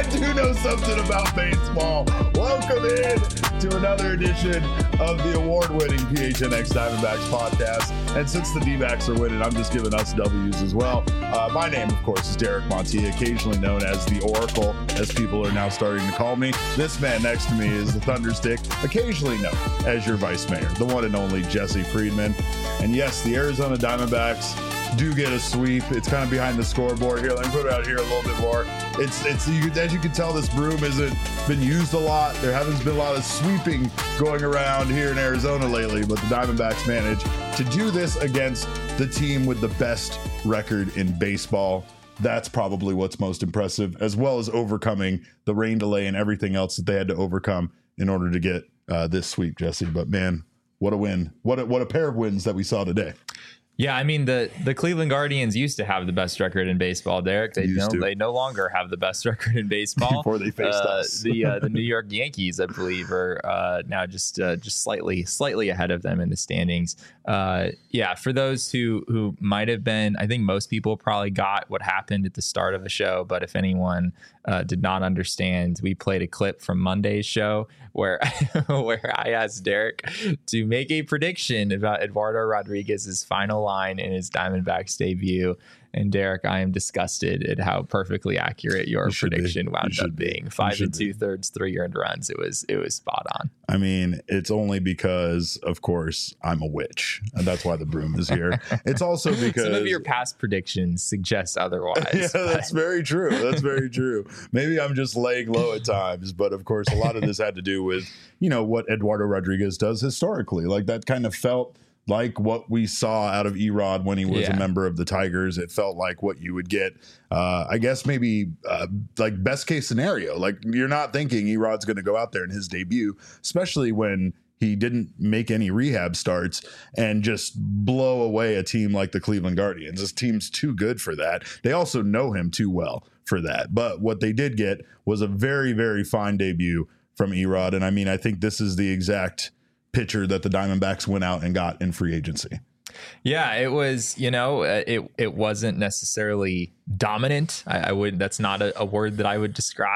do know something about baseball. Welcome in to another edition of the award-winning PHNX Diamondbacks podcast. And since the D-backs are winning, I'm just giving us W's as well. My name, of course, is Derek Montiel, occasionally known as the Oracle, as people are now starting to call me. This man next to me is the Thunderstick, occasionally known as your vice mayor, the one and only Jesse Friedman. And yes, the Arizona Diamondbacks do get a sweep. It's kind of behind the scoreboard here. Let me put it out here a little bit more. It's as you can tell, this broom hasn't been used a lot. There hasn't been a lot of sweeping going around here in Arizona lately, but the Diamondbacks managed to do this against the team with the best record in baseball. That's probably what's most impressive, as well as overcoming the rain delay and everything else that they had to overcome in order to get this sweep, Jesse. But man, what a win. What a pair of wins that we saw today. Yeah, I mean, the Cleveland Guardians used to have the best record in baseball, Derek. They no longer have the best record in baseball. Before they faced us. The New York Yankees, I believe, are now just slightly ahead of them in the standings. Yeah, for those who might have been, I think most people probably got what happened at the start of the show. But if anyone did not understand, we played a clip from Monday's show where I asked Derek to make a prediction about Eduardo Rodriguez's final line in his Diamondbacks debut. And Derek, I am disgusted at how perfectly accurate your prediction wound up being. 5 2/3, 3 earned runs. It was spot on. I mean, it's only because, of course, I'm a witch, and that's why the broom is here. It's also because some of your past predictions suggest otherwise. Yeah, that's very true. That's very true. Maybe I'm just laying low at times, but of course, a lot of this had to do with, what Eduardo Rodriguez does historically. Like, that kind of felt like what we saw out of Erod when he was a member of the Tigers. It felt like what you would get, I guess maybe like best case scenario. Like, you're not thinking Erod's going to go out there in his debut, especially when he didn't make any rehab starts and just blow away a team like the Cleveland Guardians. This team's too good for that. They also know him too well for that. But what they did get was a very, very fine debut from Erod. And I mean, I think this is the exact pitcher that the Diamondbacks went out and got in free agency. Yeah, it was, it wasn't necessarily dominant. That's not a word that I would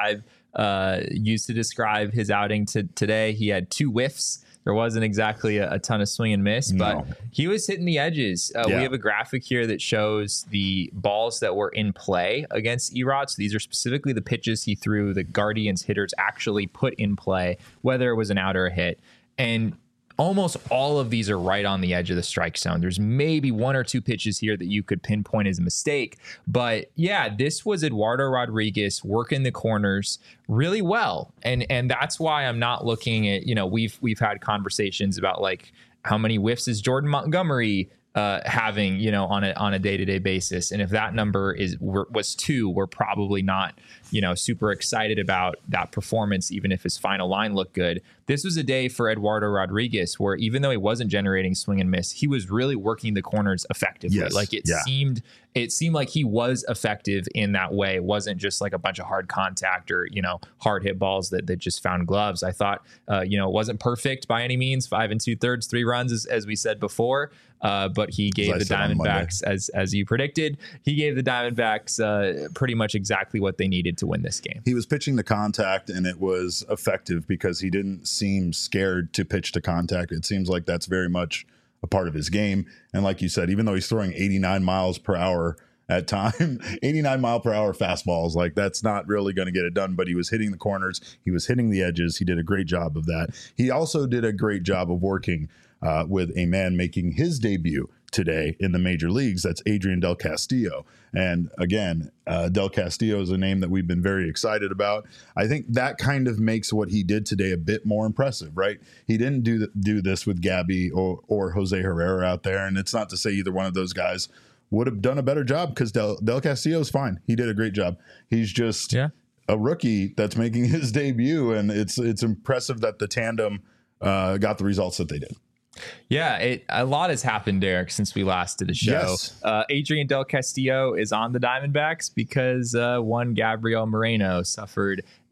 use to describe his outing today. He had 2 whiffs. There wasn't exactly a ton of swing and miss, but he was hitting the edges. We have a graphic here that shows the balls that were in play against Erod. So these are specifically the pitches he threw the Guardians hitters actually put in play, whether it was an out or a hit. And almost all of these are right on the edge of the strike zone. There's maybe 1 or 2 pitches here that you could pinpoint as a mistake. But yeah, this was Eduardo Rodriguez working the corners really well. And that's why I'm not looking at, we've had conversations about like how many whiffs is Jordan Montgomery having, on a day-to-day basis. And if that number was 2, we're probably not, super excited about that performance, even if his final line looked good. This was a day for Eduardo Rodriguez where even though he wasn't generating swing and miss, he was really working the corners effectively. Yes. Like it seemed like he was effective in that way. It wasn't just like a bunch of hard contact or, hard hit balls that just found gloves. I thought, it wasn't perfect by any means. 5 2/3, 3 runs, as we said before. But he gave the Diamondbacks, as you predicted, he gave the Diamondbacks pretty much exactly what they needed to win this game. He was pitching the contact, and it was effective because he didn't seem scared to pitch to contact. It seems like that's very much a part of his game. And like you said, even though he's throwing 89 miles per hour at time, 89 mile per hour fastballs, like that's not really going to get it done. But he was hitting the corners. He was hitting the edges. He did a great job of that. He also did a great job of working with a man making his debut today in the major leagues. That's Adrian Del Castillo. And again, Del Castillo is a name that we've been very excited about. I think that kind of makes what he did today a bit more impressive, right? He didn't do this with Gabby or Jose Herrera out there. And it's not to say either one of those guys would have done a better job, because Del Castillo is fine. He did a great job. He's just a rookie that's making his debut. And it's impressive that the tandem got the results that they did. Yeah, a lot has happened, Derek, since we last did a show. Yes. Adrian Del Castillo is on the Diamondbacks because one Gabriel Moreno suffered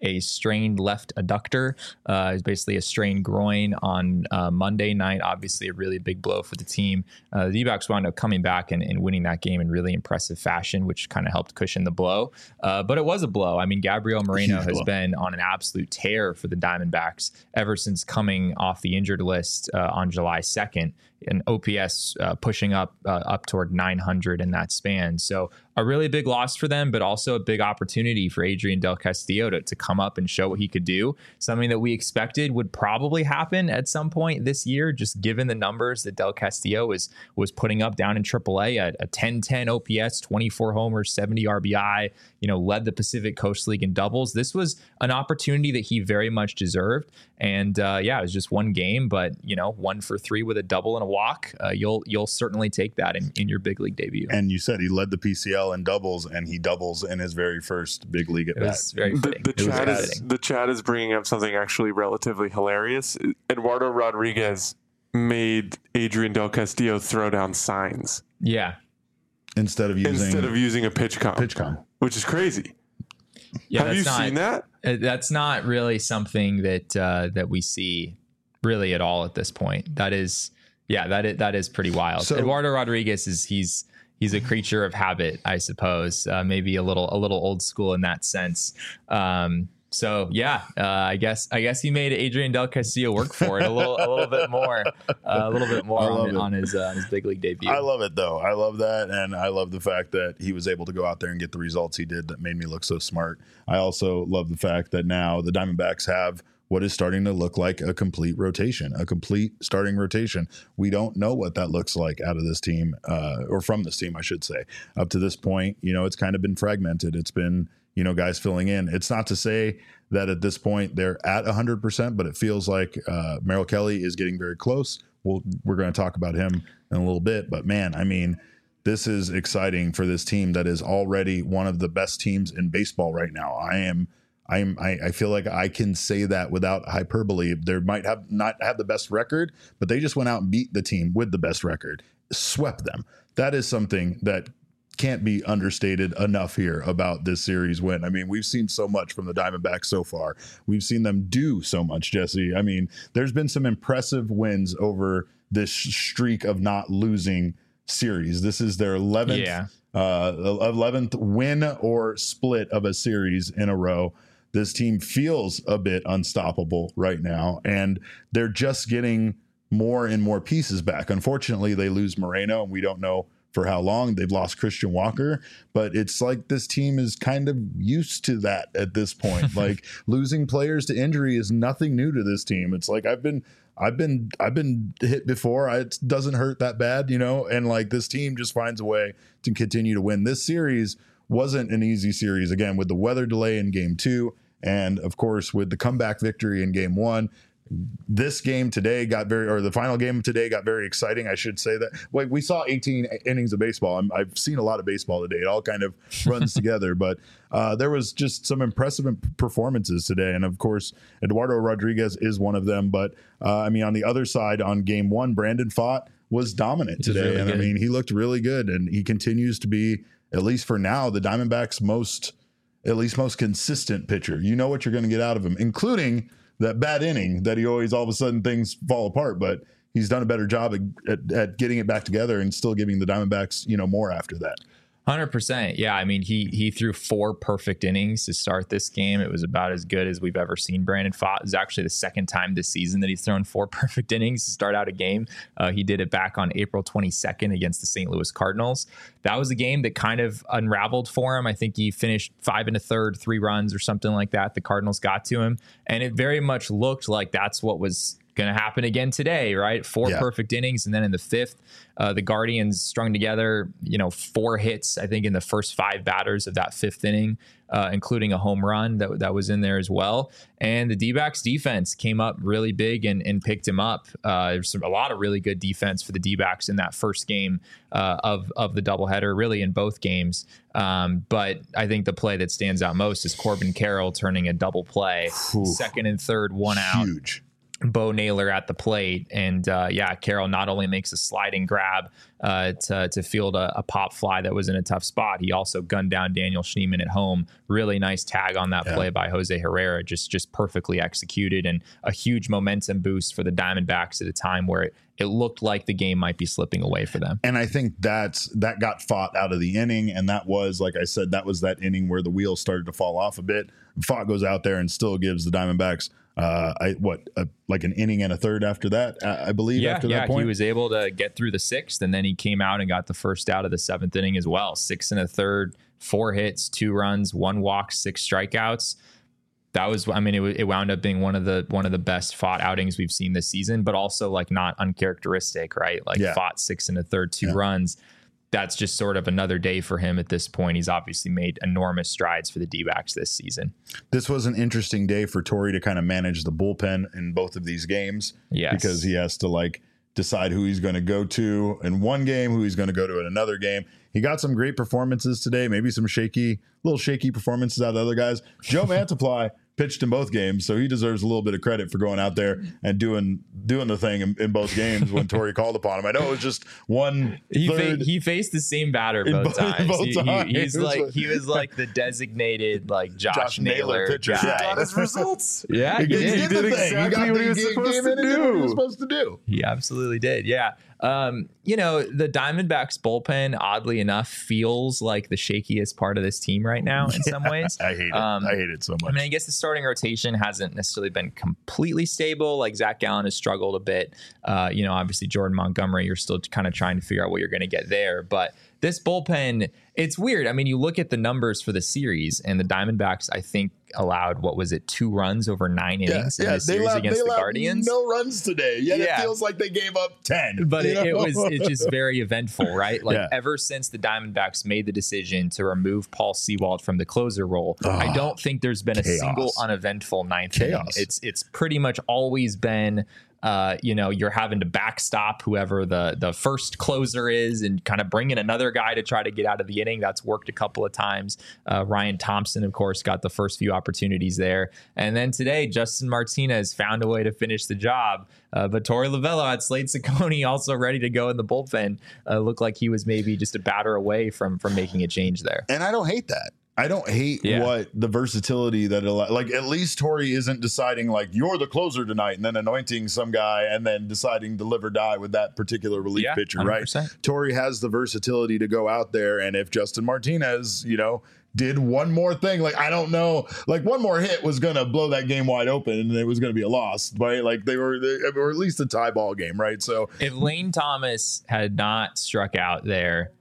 a strained left adductor. It's basically a strained groin on Monday night. Obviously, a really big blow for the team. The D-backs wound up coming back and winning that game in really impressive fashion, which kind of helped cushion the blow. But it was a blow. I mean, Gabriel Moreno has been on an absolute tear for the Diamondbacks ever since coming off the injured list on July 2nd. An OPS pushing up toward 900 in that span. So a really big loss for them, but also a big opportunity for Adrian Del Castillo to come up and show what he could do. Something that we expected would probably happen at some point this year, just given the numbers that Del Castillo was putting up down in AAA at a 10-10 OPS, 24 homers, 70 RBI, led the Pacific Coast League in doubles. This was an opportunity that he very much deserved. And it was just one game, but 1 for 3 with a double and a walk. You'll certainly take that in your big league debut. And you said he led the PCL in doubles, and he doubles in his very first big league at bat. Very fitting. The chat is bringing up something actually relatively hilarious. Eduardo Rodriguez made Adrian Del Castillo throw down signs. Yeah. Instead of using a pitch comp, which is crazy. Yeah, have you seen that? That's not really something that we see really at all at this point. That is pretty wild. So, Eduardo Rodriguez he's a creature of habit, I suppose. Maybe a little old school in that sense. I guess he made Adrian Del Castillo work for it a little bit more on his big league debut. I love it though. I love that, and I love the fact that he was able to go out there and get the results he did. That made me look so smart. I also love the fact that now the Diamondbacks have what is starting to look like a complete starting rotation. We don't know what that looks like out of this team, or from this team, I should say. Up to this point, it's kind of been fragmented. It's been guys filling in. It's not to say that at this point they're at 100%, but it feels like Merrill Kelly is getting very close. We're going to talk about him in a little bit, but man, I mean, this is exciting for this team that is already one of the best teams in baseball right now. I feel like I can say that without hyperbole. They might not have the best record, but they just went out and beat the team with the best record, swept them. That is something that can't be understated enough here about this series win. I mean, we've seen so much from the Diamondbacks so far. We've seen them do so much, Jesse. I mean, there's been some impressive wins over this streak of not losing series. This is their 11th win or split of a series in a row. This team feels a bit unstoppable right now, and they're just getting more and more pieces back. Unfortunately, they lose Moreno, and we don't know for how long. They've lost Christian Walker, but it's like this team is kind of used to that at this point. Like losing players to injury is nothing new to this team. It's like I've been hit before. It doesn't hurt that bad, and like this team just finds a way to continue to win. This series wasn't an easy series, again, with the weather delay in game 2, and of course with the comeback victory in game 1. This game today the final game of today got very exciting. I should say that. Wait, we saw 18 innings of baseball. I've seen a lot of baseball today. It all kind of runs together, but there was just some impressive performances today. And of course, Eduardo Rodriguez is one of them. But on the other side on game 1, Brandon Pfaadt was dominant today. Really good. I mean, he looked really good, and he continues to be, at least for now, the Diamondbacks' most consistent pitcher. You know what you're going to get out of him, including that bad inning that he always, all of a sudden things fall apart, but he's done a better job at getting it back together and still giving the Diamondbacks, more after that. 100%. Yeah. I mean, he threw 4 perfect innings to start this game. It was about as good as we've ever seen Brandon Pfaadt. It was actually the second time this season that he's thrown 4 perfect innings to start out a game. He did it back on April 22nd against the St. Louis Cardinals. That was a game that kind of unraveled for him. I think he finished 5 1/3, 3 runs or something like that. The Cardinals got to him, and it very much looked like that's what was going to happen again today, right? 4 perfect innings. And then in the 5th, the Guardians strung together, 4 hits, I think, in the first 5 batters of that 5th inning, including a home run that was in there as well. And the D-backs defense came up really big and picked him up. There's a lot of really good defense for the D-backs in that first game of the doubleheader, really in both games. But I think the play that stands out most is Corbin Carroll turning a double play, second and third, 1 out. Huge. Bo Naylor at the plate. And Carroll not only makes a sliding grab to field a pop fly that was in a tough spot, he also gunned down Daniel Schneemann at home. Really nice tag on that play by Jose Herrera, just perfectly executed, and a huge momentum boost for the Diamondbacks at a time where it looked like the game might be slipping away for them. And I think that got fought out of the inning. And that was, like I said, that was that inning where the wheels started to fall off a bit. Fott goes out there and still gives the Diamondbacks like an inning and a third after that, I believe. After that point, he was able to get through the sixth, and then he came out and got the first out of the seventh inning as well. 6 1/3, 4 hits, 2 runs, 1 walk, 6 strikeouts. That was, I mean, it wound up being one of the best Fott outings we've seen this season, but also like not uncharacteristic, right? Like Fott 6 1/3, 2 runs. That's just sort of another day for him at this point. He's obviously made enormous strides for the D-backs this season. This was an interesting day for Torey to kind of manage the bullpen in both of these games. Yes. Because he has to like decide who he's going to go to in one game, who he's going to go to in another game. He got some great performances today, maybe some little shaky performances out of other guys. Joe Mantiply pitched in both games, so he deserves a little bit of credit for going out there and doing the thing in both games when Torey called upon him. I know it was just one. He faced the same batter both times. He was like the designated like Josh Naylor pitcher. guy. He got his results. Yeah, he did exactly what he was supposed to do. He absolutely did. Yeah. The Diamondbacks bullpen, oddly enough, feels like the shakiest part of this team right now in some ways. I hate it. I hate it so much. I mean, I guess the starting rotation hasn't necessarily been completely stable. Like Zach Gallen has struggled a bit. Obviously Jordan Montgomery, you're still kind of trying to figure out what you're going to get there. But this bullpen, it's weird. I mean, you look at the numbers for the series, and the Diamondbacks, I think, allowed 2 runs over 9 innings in the series against the Guardians. No runs today. It feels like they gave up 10. But it's just very eventful, right? Like ever since the Diamondbacks made the decision to remove Paul Sewald from the closer role, I don't think there's been a single uneventful ninth inning. It's pretty much always been you're having to backstop whoever the first closer is and kind of bring in another guy to try to get out of the inning. That's worked a couple of times. Ryan Thompson, of course, got the first few opportunities there. And then today, Justin Martinez found a way to finish the job. But Torey Lovullo had Slade Ciccone also ready to go in the bullpen. Looked like he was maybe just a batter away from making a change there. And I don't hate that. I don't hate what the versatility that at least Torey isn't deciding like you're the closer tonight and then anointing some guy and then deciding to live or die with that particular relief pitcher, 100%. Right? Torey has the versatility to go out there, and if Justin Martinez, did one more thing, like I don't know, like one more hit was gonna blow that game wide open and it was gonna be a loss, right? Like they were at least a tie ball game, right? So if Lane Thomas had not struck out there,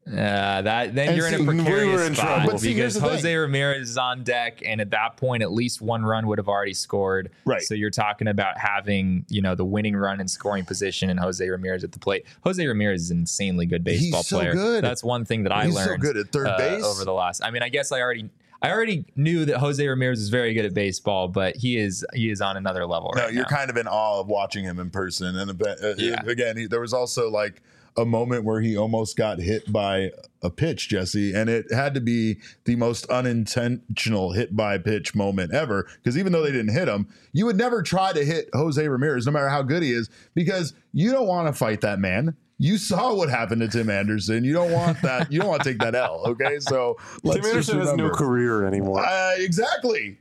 you're in a precarious spot because Jose Ramirez is on deck, and at that point, at least one run would have already scored. Right. So you're talking about having the winning run in scoring position and Jose Ramirez at the plate. Jose Ramirez is an insanely good baseball player. Good. That's one thing that I learned. So good at third base over the last. I mean, I guess I already knew that Jose Ramirez is very good at baseball, but he is on another level right now. You're kind of in awe of watching him in person. And again, there was also like a moment where he almost got hit by a pitch, Jesse, and it had to be the most unintentional hit by pitch moment ever, because even though they didn't hit him, you would never try to hit Jose Ramirez no matter how good he is, because you don't want to fight that man. You saw what happened to Tim Anderson. You don't want that. You don't want to take that L. Okay, so Tim Anderson has no career anymore. Exactly.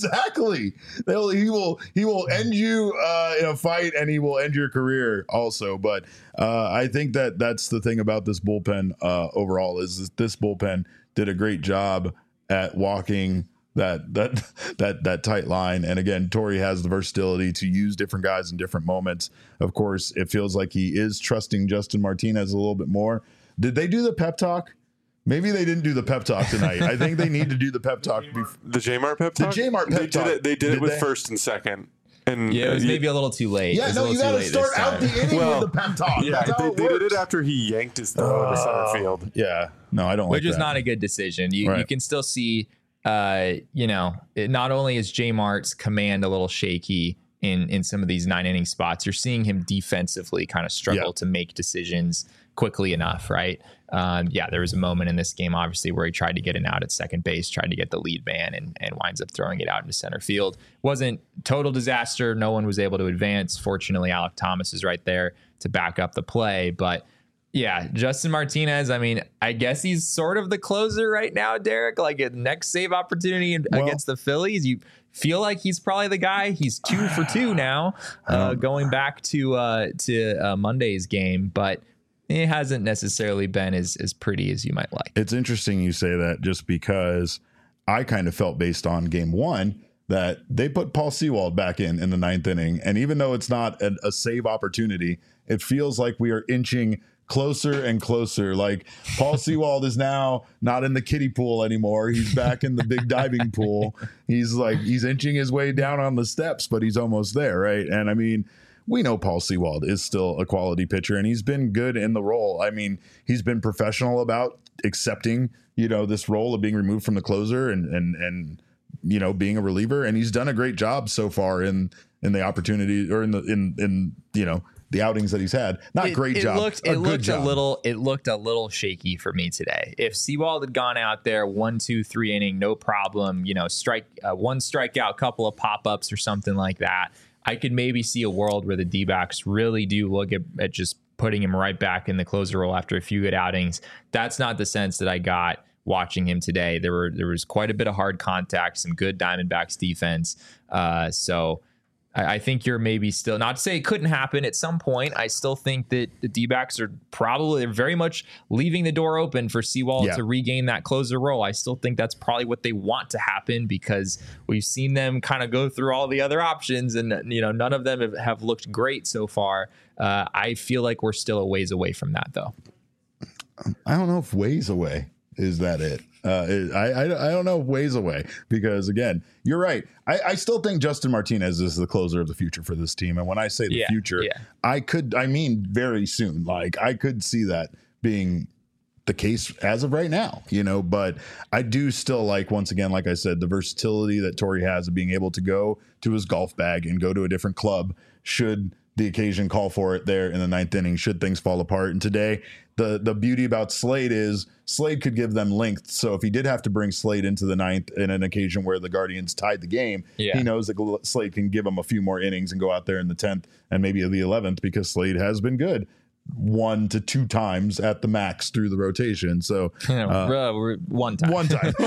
He will end you in a fight, and he will end your career also. But I think that's the thing about this bullpen overall is this bullpen did a great job at walking that tight line. And again, Torey has the versatility to use different guys in different moments. Of course, it feels like he is trusting Justin Martinez a little bit more. Did they do the pep talk? Maybe they didn't do the pep talk tonight. I think they need to do the pep talk. The J-Mart pep talk? The J-Mart pep talk. They did it with first and second. And it was maybe a little too late. Yeah, no, you got to start out the inning with the pep talk. Yeah, they did it after he yanked his throw in the center field. Yeah, no, I don't like that. Which is not a good decision. You can still see... not only is J Mart's command a little shaky in some of these 9 inning spots, you're seeing him defensively kind of struggle to make decisions quickly enough, right? There was a moment in this game, obviously, where he tried to get an out at second base, tried to get the lead man, and winds up throwing it out into center field. Wasn't total disaster. No one was able to advance. Fortunately, Alek Thomas is right there to back up the play. But yeah, Justin Martinez, I mean, I guess he's sort of the closer right now, Derek. Like a next save opportunity against the Phillies, you feel like he's probably the guy. He's 2 for 2 now, going back to Monday's game, but it hasn't necessarily been as pretty as you might like. It's interesting you say that, just because I kind of felt based on game 1 that they put Paul Sewald back in the 9th inning. And even though it's not a save opportunity, it feels like we are inching closer and closer. Like Paul Sewald is now not in the kiddie pool anymore. He's back in the big diving pool. He's inching his way down on the steps, but he's almost there, right? And I mean, we know Paul Sewald is still a quality pitcher, and he's been good in the role. I mean, he's been professional about accepting, this role of being removed from the closer and being a reliever, and he's done a great job so far in the opportunity, or in the outings that he's had. It looked a little shaky for me today. If Sewald had gone out there 1, 2, 3 inning, no problem, one strikeout, couple of pop-ups or something like that, I could maybe see a world where the D-backs really do look at just putting him right back in the closer role after a few good outings. That's not the sense that I got watching him today. There was quite a bit of hard contact, some good Diamondbacks defense. So I think you're maybe still, not to say it couldn't happen at some point. I still think that the D-backs are they're very much leaving the door open for Sewald to regain that closer role. I still think that's probably what they want to happen, because we've seen them kind of go through all the other options, and none of them have looked great so far. I feel like we're still a ways away from that, though. I don't know if ways away is that it. I don't know, ways away, because again, you're right. I still think Justin Martinez is the closer of the future for this team. And when I say the future, I mean very soon. Like, I could see that being the case as of right now, but I do still like, once again, like I said, the versatility that Torey has of being able to go to his golf bag and go to a different club should the occasion call for it there in the 9th inning, should things fall apart. And today, the beauty about Slade is Slade could give them length. So if he did have to bring Slade into the 9th in an occasion where the Guardians tied the game, he knows that Slade can give him a few more innings and go out there in the 10th and maybe the 11th, because Slade has been good 1 to 2 times at the max through the rotation. So one time.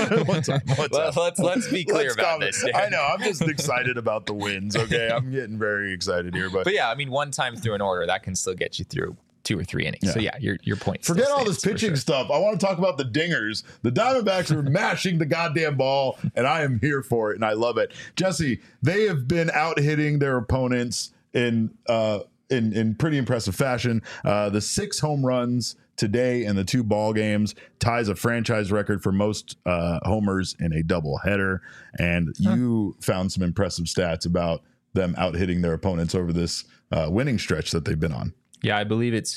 Let's be clear about this. I know, I'm just excited about the wins. Okay, I'm getting very excited here, but yeah, I mean, one time through an order that can still get you through 2 or 3 innings. So yeah, your point. Forget all this pitching stuff. I want to talk about the dingers. The Diamondbacks are mashing the goddamn ball, and I am here for it, and I love it. Jesse, they have been out hitting their opponents in pretty impressive fashion. The 6 home runs today in the 2 ball games ties a franchise record for most homers in a doubleheader. And you found some impressive stats about them out hitting their opponents over this winning stretch that they've been on. Yeah, I believe it's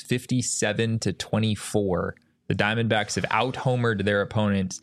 57-24. The Diamondbacks have out-homered their opponents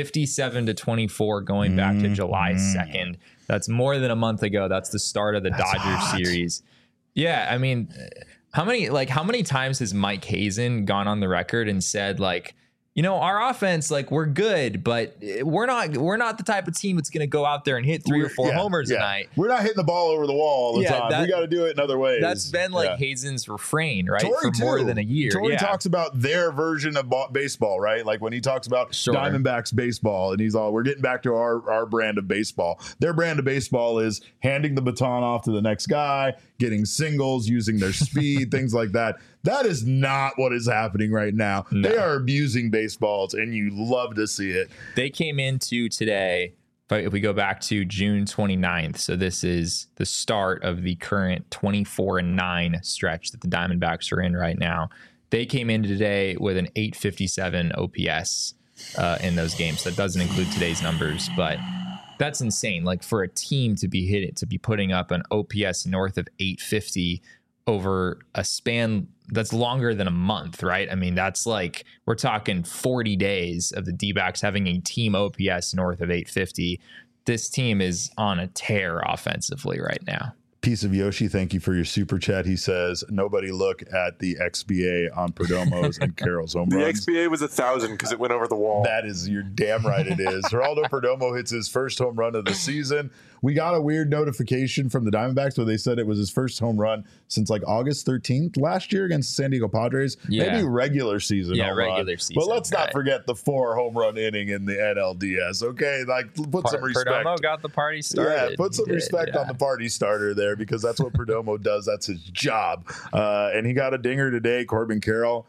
57-24 going back to July 2nd. That's more than a month ago. That's the start of the Dodgers series. Yeah, I mean, how many times has Mike Hazen gone on the record and said, like, our offense, like, we're good, but we're not the type of team that's going to go out there and hit 3 or 4 homers a night. We're not hitting the ball over the wall all the time. We got to do it in other ways. That's been Hazen's refrain, right? For more than a year. Torey talks about their version of baseball, right? Like when he talks about Diamondbacks baseball, and we're getting back to our brand of baseball. Their brand of baseball is handing the baton off to the next guy, getting singles, using their speed, things like that. That is not what is happening right now. No. They are abusing baseballs, and you love to see it. They came into today, if we go back to June 29th, so this is the start of the current 24-9 stretch that the Diamondbacks are in right now. They came in today with an 857 OPS in those games. That doesn't include today's numbers, but that's insane. Like, for a team to be putting up an OPS north of 850 over a span that's longer than a month, right? I mean, that's like, we're talking 40 days of the D-backs having a team OPS north of 850. This team is on a tear offensively right now. Piece of Yoshi, thank you for your super chat. He says, nobody look at the XBA on Perdomo's and Carroll's home runs. The XBA was 1,000 because it went over the wall. That is, you're damn right it is. Geraldo Perdomo hits his first home run of the season. We got a weird notification from the Diamondbacks where they said it was his first home run since like August 13th last year against the San Diego Padres. Yeah. Maybe regular season. Yeah, home regular run. season. But let's not forget the 4 home run inning in the NLDS. Okay, like put some respect. Perdomo got the party started. Yeah, put some respect on the party starter there because that's what Perdomo does. That's his job. And he got a dinger today. Corbin Carroll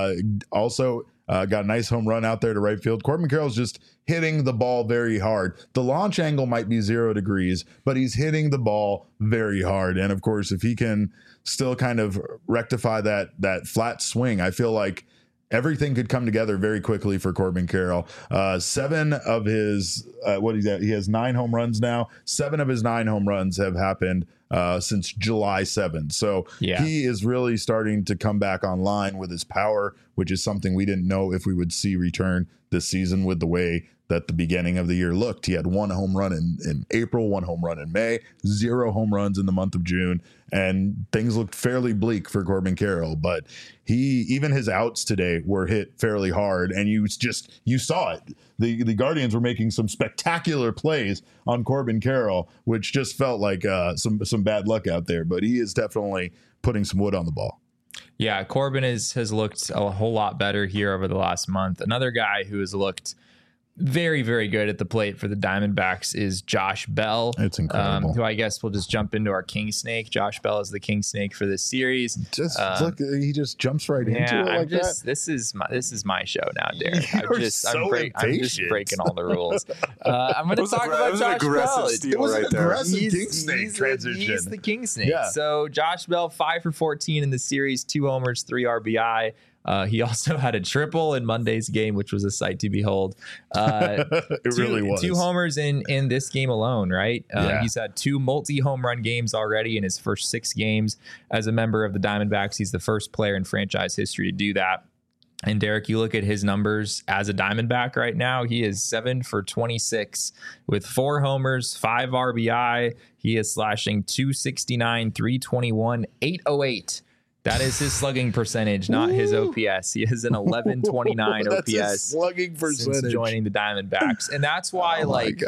also got a nice home run out there to right field. Corbin Carroll's just hitting the ball very hard. The launch angle might be 0 degrees, but he's hitting the ball very hard. And of course, if he can still kind of rectify that flat swing, I feel like everything could come together very quickly for Corbin Carroll. 7 of his, he has 9 home runs now. 7 of his 9 home runs have happened since July 7th. So he is really starting to come back online with his power, which is something we didn't know if we would see return this season with the way that the beginning of the year looked. He had 1 home run in April, 1 home run in May, 0 home runs in the month of June, and things looked fairly bleak for Corbin Carroll. But even his outs today were hit fairly hard, and you saw it. The Guardians were making some spectacular plays on Corbin Carroll, which just felt like some bad luck out there. But he is definitely putting some wood on the ball. Yeah, Corbin has looked a whole lot better here over the last month. Another guy who has looked very, very good at the plate for the Diamondbacks is Josh Bell. It's incredible. Who I guess we'll just jump into our King Snake. Josh Bell is the King Snake for this series. Look, he just jumps right into it like that. This is my show now, Derek. I'm just breaking all the rules. I'm going to talk about Josh Bell. It was an aggressive King Snake transition. He's the King Snake. Yeah. So Josh Bell, 5 for 14 in the series, 2 homers, 3 RBI. He also had a triple in Monday's game, which was a sight to behold. Really was. 2 homers in this game alone, right? He's had 2 multi-home run games already in his first 6 games as a member of the Diamondbacks. He's the first player in franchise history to do that. And Derek, you look at his numbers as a Diamondback right now. He is 7 for 26 with 4 homers, 5 RBI. He is slashing 269, 321, 808. That is his slugging percentage, not his OPS. He has an 1129 That's his OPS slugging percentage since joining the Diamondbacks. And that's why,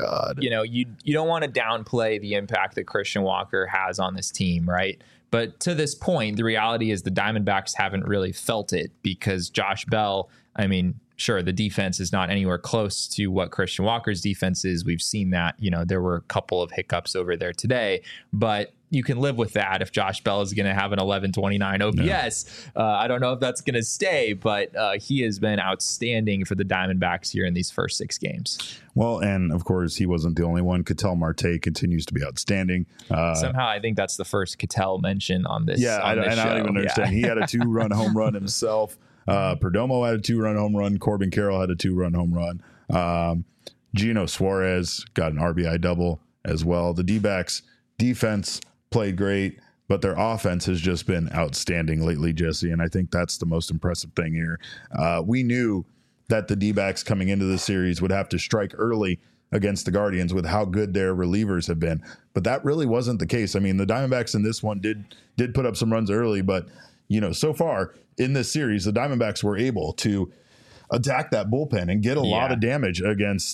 you don't want to downplay the impact that Christian Walker has on this team, right? But to this point, the reality is the Diamondbacks haven't really felt it because Josh Bell, I mean, sure, the defense is not anywhere close to what Christian Walker's defense is. We've seen that, there were a couple of hiccups over there today, but you can live with that if Josh Bell is going to have an 1129 OPS. No. I don't know if that's going to stay, but he has been outstanding for the Diamondbacks here in these first 6 games. Well, and of course, he wasn't the only one. Ketel Marte continues to be outstanding. Somehow, I think that's the first Ketel mention on this. Yeah, I don't even understand. He had a 2-run home run himself. Perdomo had a 2-run home run. Corbin Carroll had a 2-run home run. Gino Suarez got an RBI double as well. The D-backs defense played great, but their offense has just been outstanding lately, Jesse, and I think that's the most impressive thing here. We knew that the D-backs coming into the series would have to strike early against the Guardians with how good their relievers have been, but that really wasn't the case. I mean, the Diamondbacks in this one did put up some runs early, but so far in this series, the Diamondbacks were able to attack that bullpen and get a lot of damage against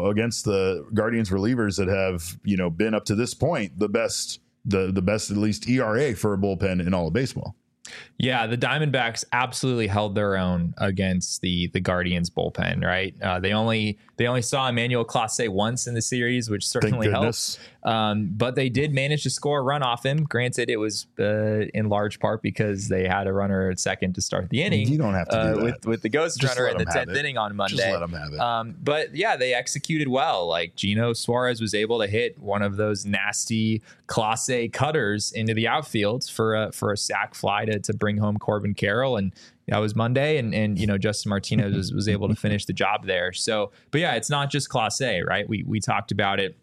the Guardians relievers that have, been up to this point the best at least ERA for a bullpen in all of baseball. Yeah, the Diamondbacks absolutely held their own against the Guardians bullpen, right? They only saw Emmanuel Clase once in the series, which certainly helps. But they did manage to score a run off him. Granted, it was in large part because they had a runner at second to start the inning. You don't have to do that. With the ghost runner in the 10th inning on Monday. Just let them have it. But yeah, they executed well. Like Gino Suarez was able to hit one of those nasty Clase cutters into the outfield for a sac fly to bring home Corbin Carroll, and that was Monday, and Justin Martinez was able to finish the job there. So, but yeah, it's not just Clase, right? We talked about it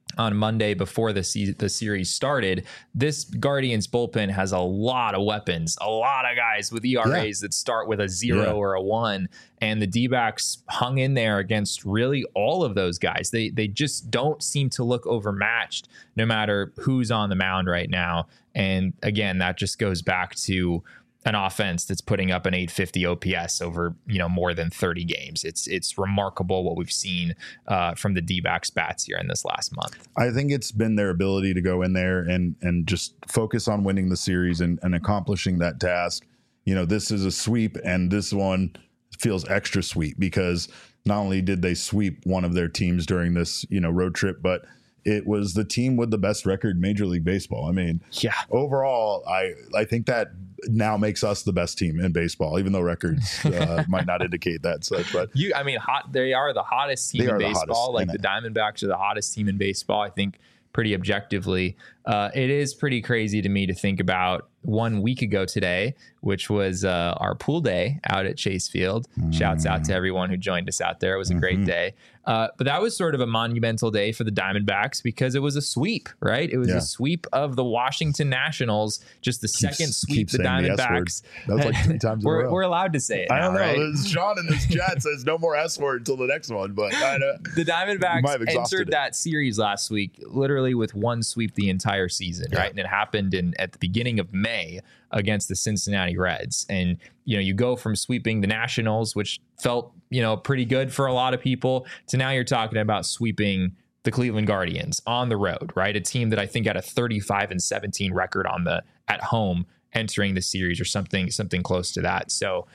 on Monday before the series started, this Guardians bullpen has a lot of weapons, a lot of guys with ERAs that start with a 0 or a 1. And the D-backs hung in there against really all of those guys. They just don't seem to look overmatched no matter who's on the mound right now. And again, that just goes back to an offense that's putting up an 850 OPS over, more than 30 games. It's remarkable what we've seen from the D-backs bats here in this last month. I think it's been their ability to go in there and just focus on winning the series and accomplishing that task. This is a sweep, and this one feels extra sweet because not only did they sweep one of their teams during this, road trip, but it was the team with the best record in Major League Baseball. I mean, overall, I think that now makes us the best team in baseball, even though records might not indicate that. Such, but they are the hottest team in baseball. Like the Diamondbacks are the hottest team in baseball, I think, pretty objectively. It is pretty crazy to me to think about 1 week ago today, which was our pool day out at Chase Field. Shouts out to everyone who joined us out there. It was a great day. But that was sort of a monumental day for the Diamondbacks because it was a sweep, right? It was a sweep of the Washington Nationals, just the second sweep the Diamondbacks. That was like 3 times in a row. We're allowed to say it I now, don't know. right? Sean in this chat says no more S word until the next one, but the Diamondbacks entered that series last week literally with 1 sweep the entire season, right? And it happened at the beginning of May against the Cincinnati Reds. And, you go from sweeping the Nationals, which felt, pretty good for a lot of people, to now you're talking about sweeping the Cleveland Guardians on the road, right? A team that I think had a 35-17 record at home entering the series or something close to that. So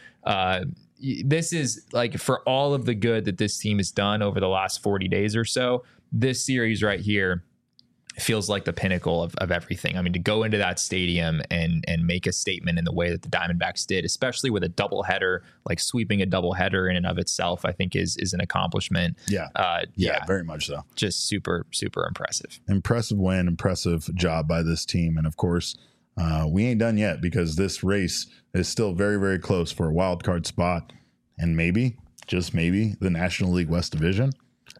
this is like, for all of the good that this team has done over the last 40 days or so, this series right here feels like the pinnacle of everything. I mean, to go into that stadium and make a statement in the way that the Diamondbacks did, especially with a doubleheader, like sweeping a doubleheader in and of itself, I think is an accomplishment. Yeah, very much so. Just super, super impressive. Impressive win, impressive job by this team. And of course, we ain't done yet because this race is still very, very close for a wild card spot and maybe, just maybe, the National League West Division.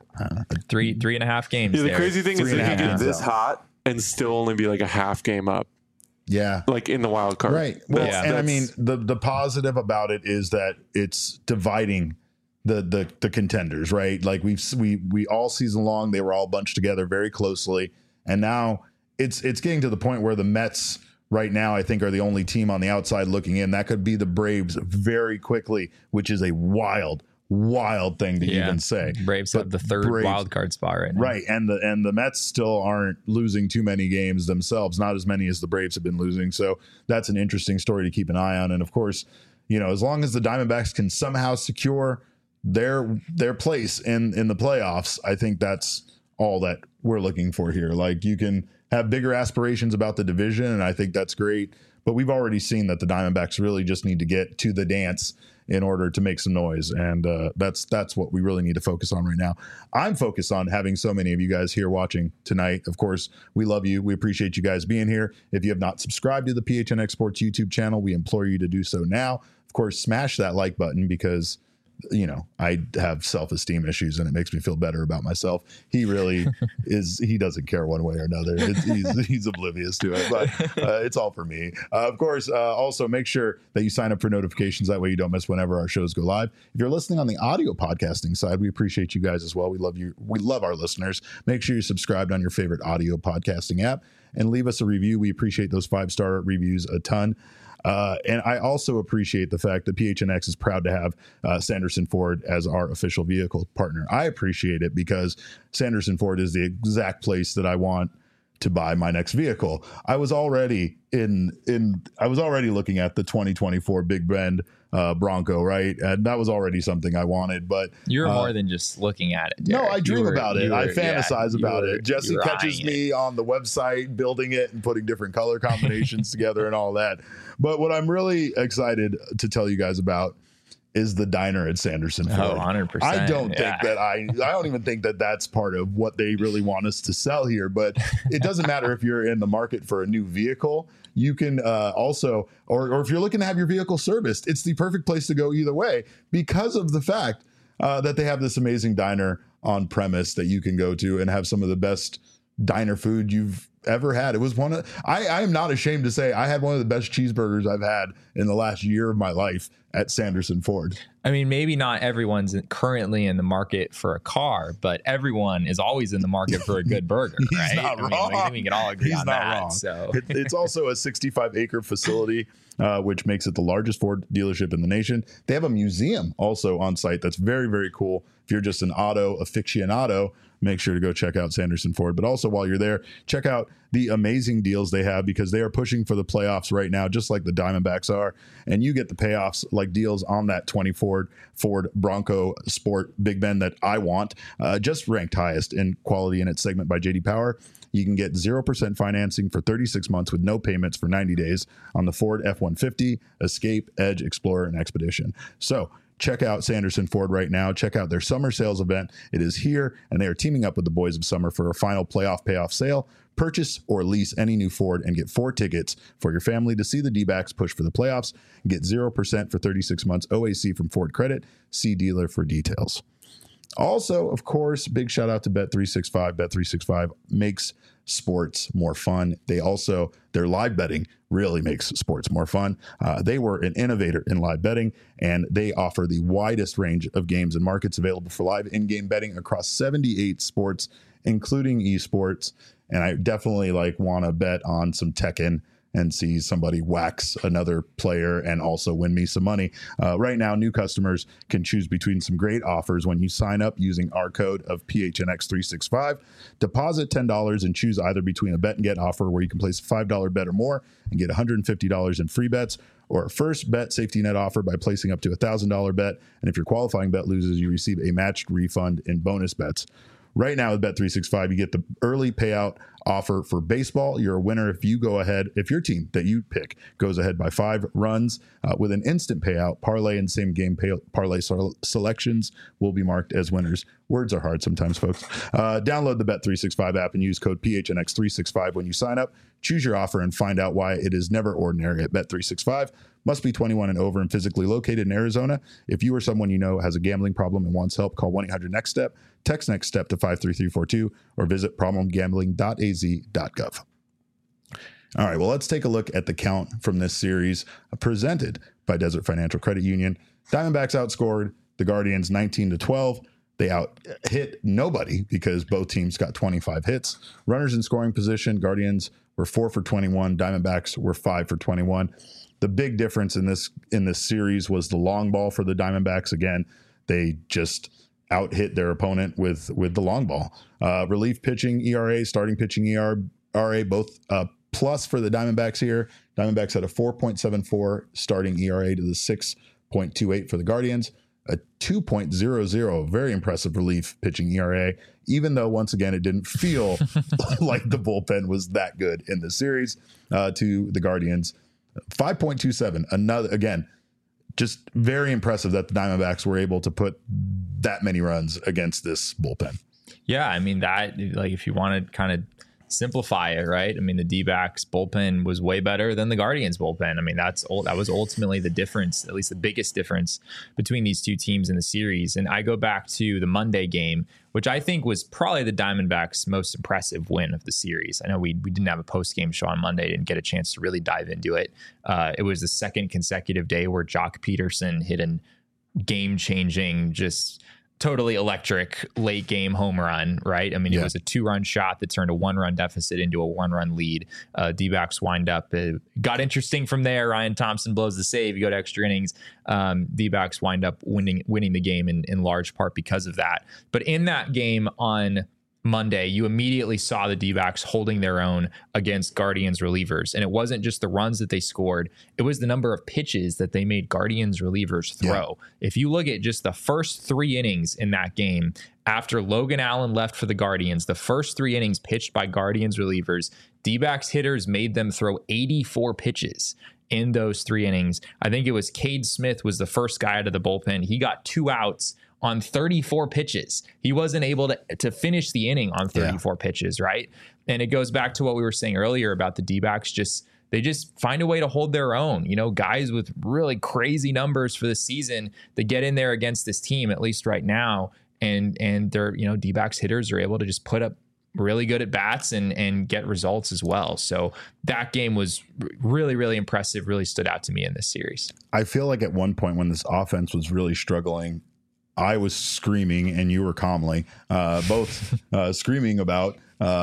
3.5 games. Yeah, the crazy thing is they can get this hot and still only be like a half game up. Yeah, like in the wild card, right? Well, and I mean the positive about it is that it's dividing the contenders, right? Like we all season long they were all bunched together very closely, and now it's getting to the point where the Mets right now I think are the only team on the outside looking in. That could be the Braves very quickly, which is a wild thing to even say. Braves have the third wild card spot right now. Right. And the Mets still aren't losing too many games themselves, not as many as the Braves have been losing. So that's an interesting story to keep an eye on. And of course, as long as the Diamondbacks can somehow secure their place in the playoffs, I think that's all that we're looking for here. Like, you can have bigger aspirations about the division, and I think that's great. But we've already seen that the Diamondbacks really just need to get to the dance in order to make some noise. And that's what we really need to focus on right now. I'm focused on having so many of you guys here watching tonight. Of course, we love you. We appreciate you guys being here. If you have not subscribed to the PHNX Sports YouTube channel, we implore you to do so now. Of course, smash that like button because I have self-esteem issues and it makes me feel better about myself. He really he doesn't care one way or another. He's oblivious to it, but it's all for me. Of course, also make sure that you sign up for notifications. That way you don't miss whenever our shows go live. If you're listening on the audio podcasting side, we appreciate you guys as well. We love you. We love our listeners. Make sure you're subscribed on your favorite audio podcasting app and leave us a review. We appreciate those 5-star reviews a ton. And I also appreciate the fact that PHNX is proud to have Sanderson Ford as our official vehicle partner. I appreciate it because Sanderson Ford is the exact place that I want to buy my next vehicle. I was already looking at the 2024 Big Bend Bronco, right? And that was already something I wanted, but you're more than just looking at it, Derek. No, I dream about it. I fantasize about it. Jesse catches me on the website building it and putting different color combinations together and all that. But what I'm really excited to tell you guys about is the diner at Sanderson Ford. Oh, 100%. I don't think that I don't even think that that's part of what they really want us to sell here, but it doesn't matter if you're in the market for a new vehicle. You can also, or if you're looking to have your vehicle serviced, it's the perfect place to go either way because of the fact that they have this amazing diner on premise that you can go to and have some of the best diner food you've ever had. It was one of, I am not ashamed to say I had one of the best cheeseburgers I've had in the last year of my life at Sanderson Ford. I mean, maybe not everyone's currently in the market for a car, but everyone is always in the market for a good burger, right? He's not wrong. I think we can all agree He's on not that. wrong. So It's also a 65-acre facility, which makes it the largest Ford dealership in the nation. They have a museum also on site that's very, very cool. If you're just an auto aficionado, make sure to go check out Sanderson Ford. But also while you're there, check out the amazing deals they have, because they are pushing for the playoffs right now, just like the Diamondbacks are. And you get the payoffs like deals on that 24 Ford Bronco Sport Big Ben that I want, just ranked highest in quality in its segment by JD Power. You can get 0% financing for 36 months with no payments for 90 days on the Ford F-150, Escape, Edge, Explorer, and Expedition. So check out Sanderson Ford right now. Check out their summer sales event. It is here, and they are teaming up with the Boys of Summer for a final playoff payoff sale. Purchase or lease any new Ford and get 4 tickets for your family to see the D-backs push for the playoffs. Get 0% for 36 months OAC from Ford Credit. See dealer for details. Also, of course, big shout out to Bet365. Bet365 makes sports more fun. Their live betting really makes sports more fun. They were an innovator in live betting, and they offer the widest range of games and markets available for live in-game betting across 78 sports, including esports. And I definitely want to bet on some Tekken and see somebody wax another player and also win me some money. Right now, new customers can choose between some great offers when you sign up using our code of PHNX365. Deposit $10 and choose either between a bet and get offer where you can place a $5 bet or more and get $150 in free bets, or a first bet safety net offer by placing up to a $1,000 bet. And if your qualifying bet loses, you receive a matched refund in bonus bets. Right now with Bet365, you get the early payout offer for baseball. You're a winner if you go ahead, if your team that you pick goes ahead by 5 runs with an instant payout. Parlay and same game parlay selections will be marked as winners. Words are hard sometimes, folks. Download the Bet365 app and use code PHNX365 when you sign up. Choose your offer and find out why it is never ordinary at Bet365. Must be 21 and over and physically located in Arizona. If you or someone you know has a gambling problem and wants help, call 1-800-NEXT-STEP, text NEXT STEP to 53342, or visit problemgambling.az.gov. All right, well, let's take a look at the count from this series presented by Desert Financial Credit Union. Diamondbacks outscored the Guardians 19-12. They out-hit nobody because both teams got 25 hits. Runners in scoring position, Guardians were 4 for 21. Diamondbacks were 5 for 21. The big difference in this series was the long ball for the Diamondbacks. Again, they just out-hit their opponent with the long ball. Relief pitching ERA, starting pitching ERA, both plus for the Diamondbacks here. Diamondbacks had a 4.74 starting ERA to the 6.28 for the Guardians. A 2.00, very impressive relief pitching ERA, even though, once again, it didn't feel like the bullpen was that good in the series to the Guardians. 5.27, another, again, just very impressive that the Diamondbacks were able to put that many runs against this bullpen. Yeah, I mean, that, if you want to kind of simplify it, right? I mean, the D-backs bullpen was way better than the Guardians bullpen. I mean, that was ultimately the difference, at least the biggest difference between these two teams in the series. And I go back to the Monday game, which I think was probably the Diamondbacks' most impressive win of the series. I know we didn't have a post-game show on Monday, didn't get a chance to really dive into it. It was the second consecutive day where Jock Peterson hit a game-changing, just totally electric late game home run, right? I mean, It was a 2-run shot that turned a 1-run deficit into a 1-run lead. D-backs wind up, got interesting from there. Ryan Thompson blows the save. You go to extra innings. D-backs wind up winning the game in large part because of that. But in that game on Monday, you immediately saw the D-backs holding their own against Guardians relievers. And it wasn't just the runs that they scored. It was the number of pitches that they made Guardians relievers throw. Yeah. If you look at just the first 3 innings in that game, after Logan Allen left for the Guardians, the first 3 innings pitched by Guardians relievers, D-backs hitters made them throw 84 pitches in those 3 innings. I think it was Cade Smith was the first guy out of the bullpen. He got 2 outs on 34 pitches. He wasn't able to finish the inning on 34 pitches, right? And it goes back to what we were saying earlier about the D-backs. They just find a way to hold their own. Guys with really crazy numbers for the season that get in there against this team, at least right now, and their D-backs hitters are able to just put up really good at bats and get results as well. So that game was really, really impressive, really stood out to me in this series. I feel like at one point when this offense was really struggling, I was screaming and you were calmly both screaming about,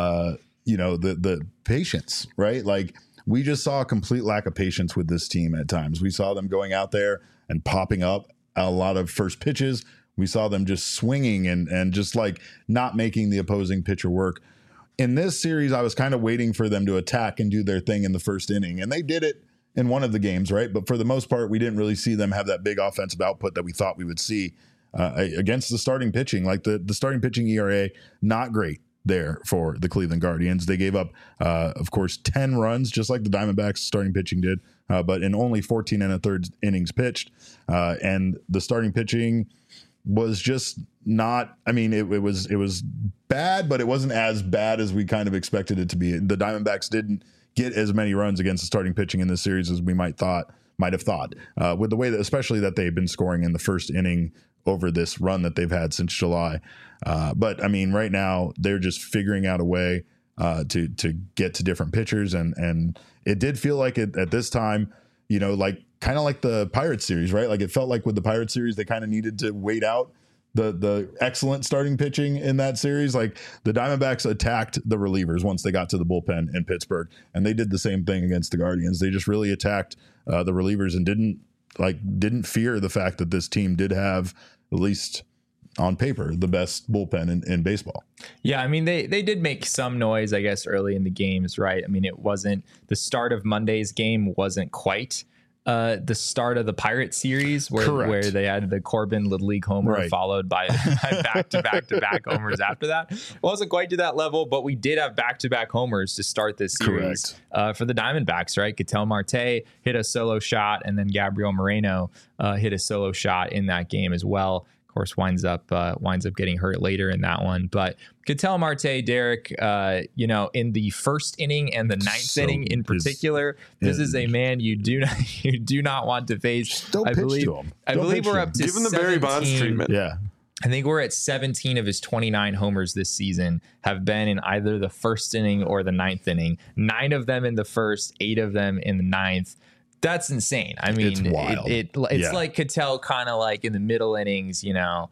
the patience, right? Like we just saw a complete lack of patience with this team at times. We saw them going out there and popping up a lot of first pitches. We saw them just swinging and just like not making the opposing pitcher work. In this series, I was kind of waiting for them to attack and do their thing in the first inning. And they did it in one of the games, right? But for the most part, we didn't really see them have that big offensive output that we thought we would see against the starting pitching. Like the starting pitching ERA, not great there for the Cleveland Guardians. They gave up, of course, 10 runs, just like the Diamondbacks starting pitching did, but in only 14 1/3 innings pitched. And the starting pitching was just not, I mean, it was bad, but it wasn't as bad as we kind of expected it to be. The Diamondbacks didn't get as many runs against the starting pitching in this series as we might have thought, with the way that, especially that they've been scoring in the first inning over this run that they've had since July. But I mean, right now they're just figuring out a way to get to different pitchers. And it did feel like it at this time, like kind of like the Pirates series, right? Like it felt like with the Pirates series, they kind of needed to wait out the excellent starting pitching in that series. Like the Diamondbacks attacked the relievers once they got to the bullpen in Pittsburgh, and they did the same thing against the Guardians. They just really attacked the relievers and didn't fear the fact that this team did have, at least on paper, the best bullpen in baseball. Yeah, I mean, they did make some noise, I guess, early in the games, right? I mean, it wasn't the start of Monday's game wasn't quite the start of the Pirates series where they had the Corbin Little League homer followed by back-to-back homers after that. It wasn't quite to that level, but we did have back-to-back homers to start this series for the Diamondbacks, right? Ketel Marte hit a solo shot, and then Gabriel Moreno hit a solo shot in that game as well. Of course, winds up getting hurt later in that one. But Ketel Marte, Derek, in the first inning and the ninth inning in particular, this is a man you do not want to face. Don't pitch to him. I believe we're up to give him the Barry Bonds treatment. Yeah. I think we're at 17 of his 29 homers this season have been in either the first inning or the ninth inning. 9 of them in the first, 8 of them in the ninth. That's insane. I mean, it's wild. It's like Ketel kind of like in the middle innings,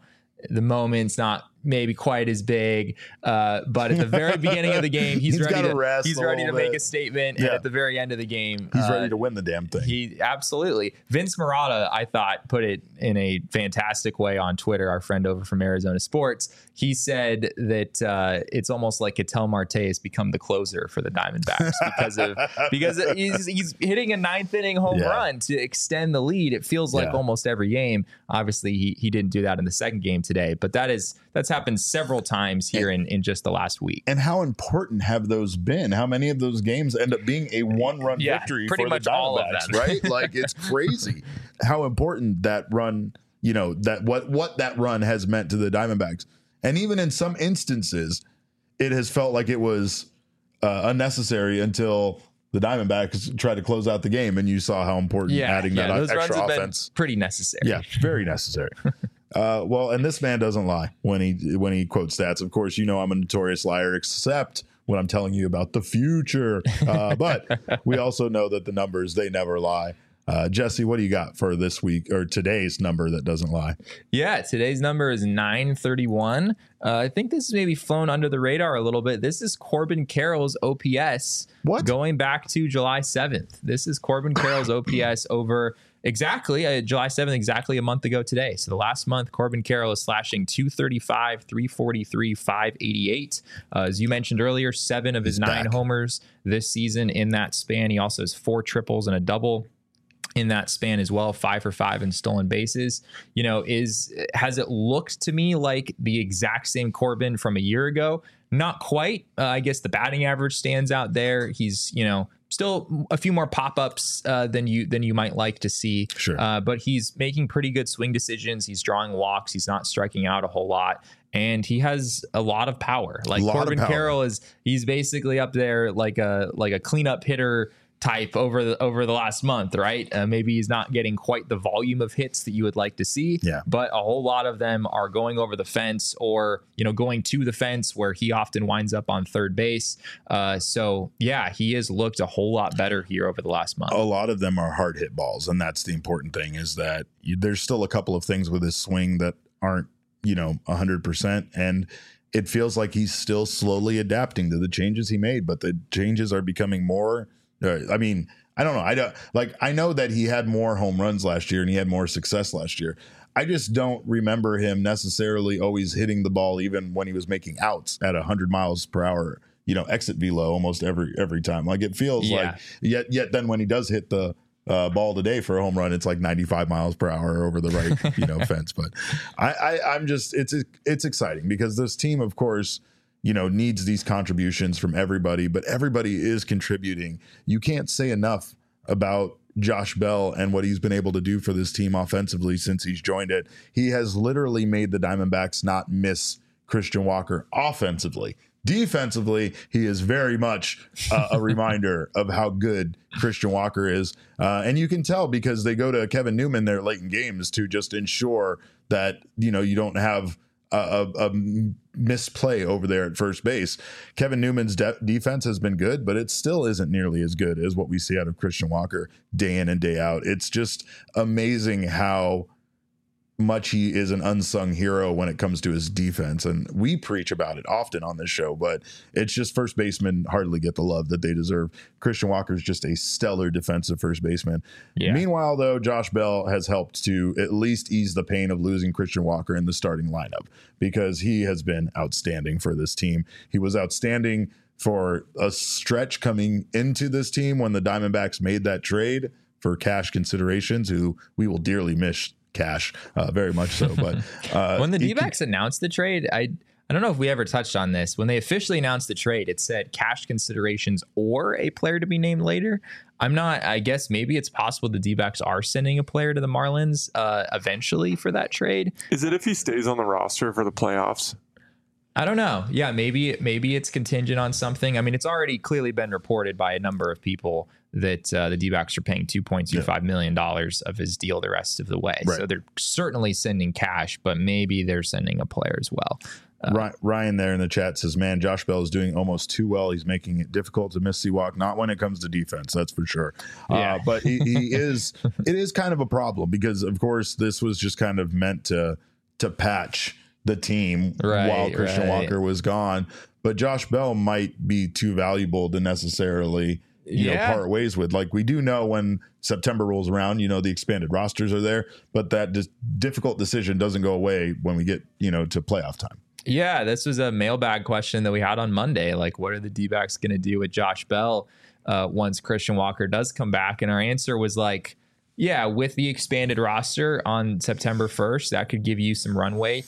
the moment's not maybe quite as big, but at the very beginning of the game, he's ready to make a statement. And at the very end of the game, he's ready to win the damn thing. He absolutely. Vince Marotta, I thought, put it in a fantastic way on Twitter. Our friend over from Arizona Sports, he said that it's almost like Ketel Marte has become the closer for the Diamondbacks because he's hitting a ninth inning home run to extend the lead. It feels like almost every game. Obviously, he didn't do that in the second game today, but that's happened several times here in just the last week. And how important have those been? How many of those games end up being a one-run victory pretty for much the Diamondbacks, all of them. right? Like it's crazy how important that run, that what that run has meant to the Diamondbacks. And even in some instances, it has felt like it was unnecessary until the Diamondbacks tried to close out the game, and you saw how important adding that those extra runs have offense. Been pretty necessary. Yeah, very necessary. Well, and this man doesn't lie when he quotes stats. Of course, I'm a notorious liar, except when I'm telling you about the future. But we also know that the numbers, they never lie. Jesse, what do you got for this week or today's number that doesn't lie? Yeah, today's number is 931. I think this is maybe flown under the radar a little bit. This is Corbin Carroll's OPS going back to July 7th. This is Corbin Carroll's OPS over exactly July 7th, exactly a month ago today. So the last month, Corbin Carroll is slashing 235, 343, 588. As you mentioned earlier, 7 of his 9 homers this season in that span. He also has 4 triples and a double in that span as well, 5 for 5 in stolen bases. Has it looked to me like the exact same Corbin from a year ago? Not quite. I guess the batting average stands out there. He's, still a few more pop-ups than you might like to see. Sure. But he's making pretty good swing decisions. He's drawing walks. He's not striking out a whole lot. And he has a lot of power. Like Corbin Carroll he's basically up there like a cleanup hitter, type over the last month, right? Maybe he's not getting quite the volume of hits that you would like to see, but a whole lot of them are going over the fence or, going to the fence where he often winds up on third base. So yeah, he has looked a whole lot better here over the last month. A lot of them are hard hit balls. And that's the important thing, is that there's still a couple of things with his swing that aren't, 100%. And it feels like he's still slowly adapting to the changes he made, but the changes are becoming more. I mean, I don't know. I know that he had more home runs last year and he had more success last year. I just don't remember him necessarily always hitting the ball, even when he was making outs at 100 miles per hour, exit velo almost every time. Like it feels like yet then when he does hit the ball today for a home run, it's like 95 miles per hour over the right, fence. But I'm just, it's exciting because this team, of course, needs these contributions from everybody, but everybody is contributing. You can't say enough about Josh Bell and what he's been able to do for this team offensively since he's joined it. He has literally made the Diamondbacks not miss Christian Walker offensively. Defensively, he is very much a reminder of how good Christian Walker is. And you can tell because they go to Kevin Newman there late in games to just ensure that, you don't have a misplay over there at first base. Kevin Newman's defense has been good, but it still isn't nearly as good as what we see out of Christian Walker day in and day out. It's just amazing how much he is an unsung hero when it comes to his defense. And we preach about it often on this show, but it's just first basemen hardly get the love that they deserve. Christian Walker is just a stellar defensive first baseman. Yeah. Meanwhile, though, Josh Bell has helped to at least ease the pain of losing Christian Walker in the starting lineup because he has been outstanding for this team. He was outstanding for a stretch coming into this team when the Diamondbacks made that trade for cash considerations, who we will dearly miss Cash, very much so. But when the D-backs announced the trade, I don't know if we ever touched on this. When they officially announced the trade, it said cash considerations or a player to be named later. I guess maybe it's possible the D-backs are sending a player to the Marlins eventually for that trade. Is it if he stays on the roster for the playoffs? I don't know. Yeah, maybe it's contingent on something. I mean, it's already clearly been reported by a number of people that the D-backs are paying $2.25 million of his deal the rest of the way. Right. So they're certainly sending cash, but maybe they're sending a player as well. Ryan there in the chat says, man, Josh Bell is doing almost too well. He's making it difficult to miss C-Walk, not when it comes to defense, that's for sure. Yeah. But he is, it is kind of a problem because, of course, this was just kind of meant to patch the team while Christian Walker was gone. But Josh Bell might be too valuable to necessarily part ways with. Like we do know when September rolls around, the expanded rosters are there, but that difficult decision doesn't go away when we get, to playoff time. Yeah, this was a mailbag question that we had on Monday. Like, what are the D-backs going to do with Josh Bell once Christian Walker does come back? And our answer was like, yeah, with the expanded roster on September 1st, that could give you some runway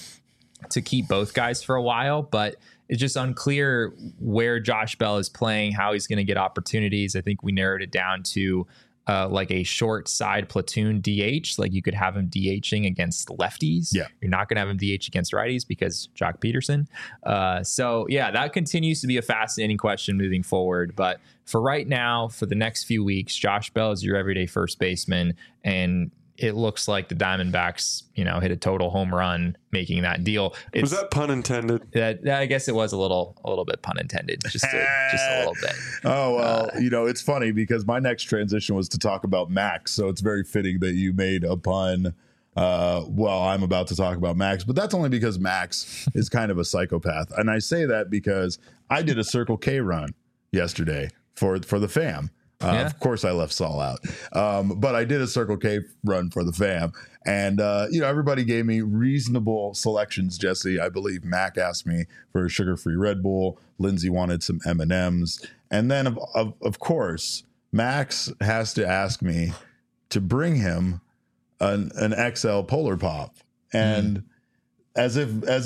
to keep both guys for a while, but it's just unclear where Josh Bell is playing, how he's going to get opportunities. I think we narrowed it down to like a short side platoon DH. Like you could have him DHing against lefties. Yeah. You're not going to have him DH against righties because Jock Peterson. So yeah, that continues to be a fascinating question moving forward. But for right now, for the next few weeks, Josh Bell is your everyday first baseman. And it looks like the Diamondbacks, hit a total home run making that deal. Was that pun intended? That I guess it was a little bit pun intended, just a little bit. Oh well, it's funny because my next transition was to talk about Max, so it's very fitting that you made a pun. I'm about to talk about Max, but that's only because Max is kind of a psychopath, and I say that because I did a Circle K run yesterday for the fam. Of course, I left Saul out, but I did a Circle K run for the fam, and everybody gave me reasonable selections. Jesse, I believe Mac asked me for a sugar-free Red Bull. Lindsay wanted some M&Ms, and then of course Max has to ask me to bring him an XL Polar Pop, and as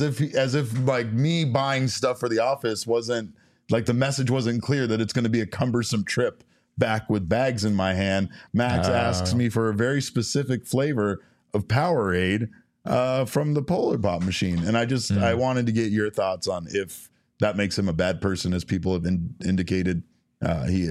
if like me buying stuff for the office wasn't like the message wasn't clear that it's going to be a cumbersome trip back with bags in my hand. Max asks me for a very specific flavor of Powerade from the Polar Pop machine. And I wanted to get your thoughts on if that makes him a bad person, as people have indicated he is.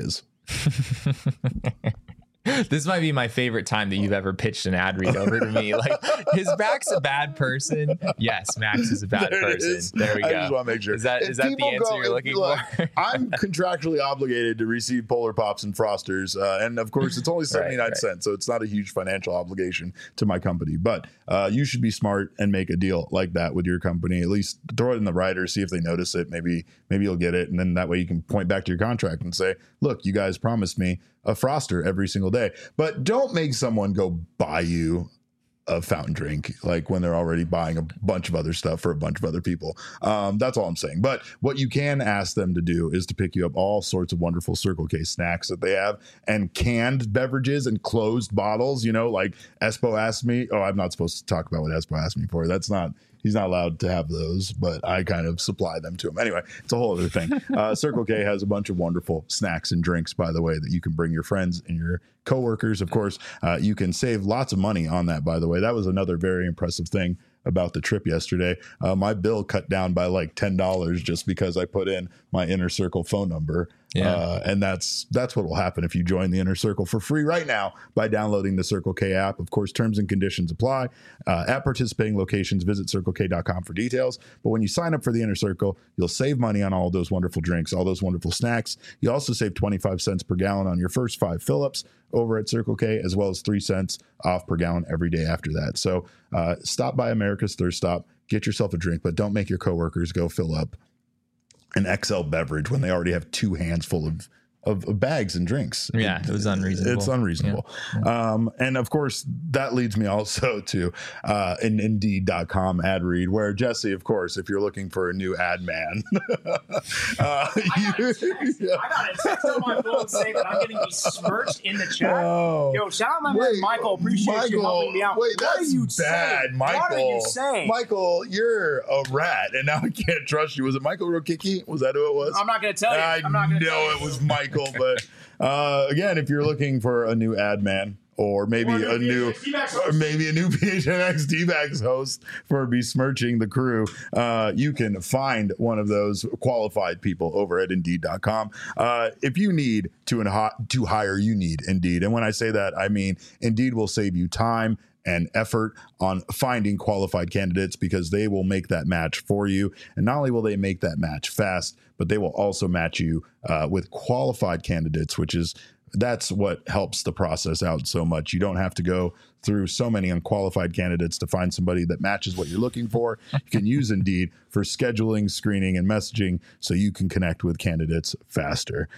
This might be my favorite time that you've ever pitched an ad read over to me. Like, is Max a bad person? Yes, Max is a bad person. There we go. I just want to make sure. Is that the answer you're looking for? I'm contractually obligated to receive Polar Pops and Frosters. And of course, it's only 79 cents. So it's not a huge financial obligation to my company. But you should be smart and make a deal like that with your company. At least throw it in the rider, see if they notice it. Maybe you'll get it. And then that way you can point back to your contract and say, look, you guys promised me a Froster every single day. But don't make someone go buy you a fountain drink, like when they're already buying a bunch of other stuff for a bunch of other people. That's all I'm saying. But what you can ask them to do is to pick you up all sorts of wonderful Circle K snacks that they have, and canned beverages and closed bottles, like Espo asked me. Oh, I'm not supposed to talk about what Espo asked me for. He's not allowed to have those, but I kind of supply them to him. Anyway, it's a whole other thing. Circle K has a bunch of wonderful snacks and drinks, by the way, that you can bring your friends and your coworkers. Of course, you can save lots of money on that, by the way. That was another very impressive thing about the trip yesterday. My bill cut down by like $10 just because I put in my Inner Circle phone number. Yeah. And that's what will happen if you join the Inner Circle for free right now by downloading the Circle K app. Of course, terms and conditions apply. At participating locations, visit CircleK.com for details. But when you sign up for the Inner Circle, you'll save money on all those wonderful drinks, all those wonderful snacks. You also save 25 cents per gallon on your first 5 fill-ups over at Circle K, as well as 3 cents off per gallon every day after that. So stop by America's Thirst Stop, get yourself a drink, but don't make your coworkers go fill up an XL beverage when they already have 2 hands full of bags and drinks. Yeah, it was unreasonable. It's unreasonable. Yeah. And of course, that leads me also to an Indeed.com ad read, where Jesse, of course, if you're looking for a new ad man. I got a text on my phone saying that I'm getting besmirched in the chat. Oh. Yo, shout out my man Michael. Appreciate you helping me out. Wait, what are you bad, saying? Michael? What are you saying? Michael, you're a rat, and now I can't trust you. Was it Michael Rokicki? Was that who it was? I'm not going to tell you. I know it was Michael. But again, if you're looking for a new ad man, or maybe a new PHNX D-backs host for besmirching the crew, you can find one of those qualified people over at Indeed.com. If you need to hire, you need Indeed. And when I say that, I mean Indeed will save you time and effort on finding qualified candidates, because they will make that match for you. And not only will they make that match fast, but they will also match you with qualified candidates, that's what helps the process out so much. You don't have to go through so many unqualified candidates to find somebody that matches what you're looking for. You can use Indeed for scheduling, screening, and messaging so you can connect with candidates faster.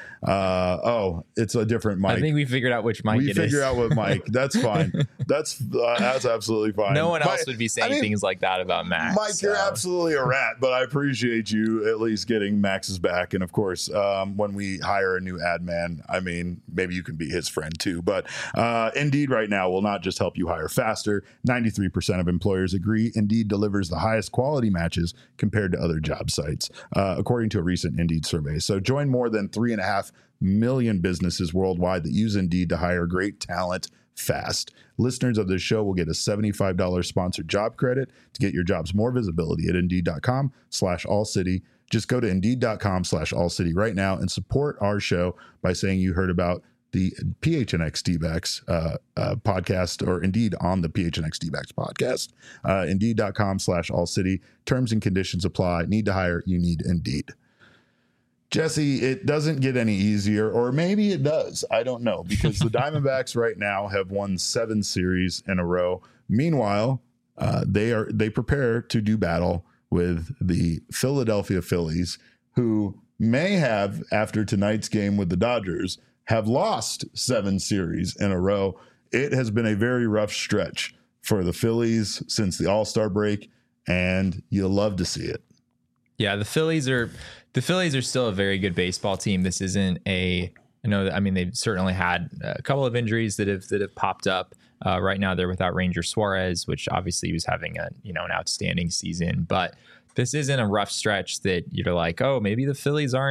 It's a different Mike. I think we figured out which Mike it is. We figured out what Mike. That's fine. That's absolutely fine. No one else would be saying things like that about Max. Mike, you're absolutely a rat, but I appreciate you at least getting Max's back. And of course, when we hire a new ad man, maybe you can be his friend too. But Indeed right now will not just help you hire faster. 93% of employers agree Indeed delivers the highest quality matches compared to other job sites, according to a recent Indeed survey. So join more than 3.5 million businesses worldwide that use Indeed to hire great talent fast. Listeners of this show will get a $75 sponsored job credit to get your jobs more visibility at Indeed.com/allcity. Just go to Indeed.com/allcity right now and support our show by saying you heard about the PHNX D-backs podcast, or Indeed on the PHNX D-backs podcast. Indeed.com/allcity. Terms and conditions apply. Need to hire? You need Indeed. Jesse, it doesn't get any easier, or maybe it does. I don't know, because the Diamondbacks right now have won 7 series in a row. Meanwhile, they prepare to do battle with the Philadelphia Phillies, who may have, after tonight's game with the Dodgers, have lost 7 series in a row. It has been a very rough stretch for the Phillies since the All-Star break, and you'll love to see it. Yeah, the Phillies are still a very good baseball team. This isn't they've certainly had a couple of injuries that have popped up. Right now they're without Ranger Suarez, which obviously was having an outstanding season. But this isn't a rough stretch that you're like, oh, maybe the Phillies aren't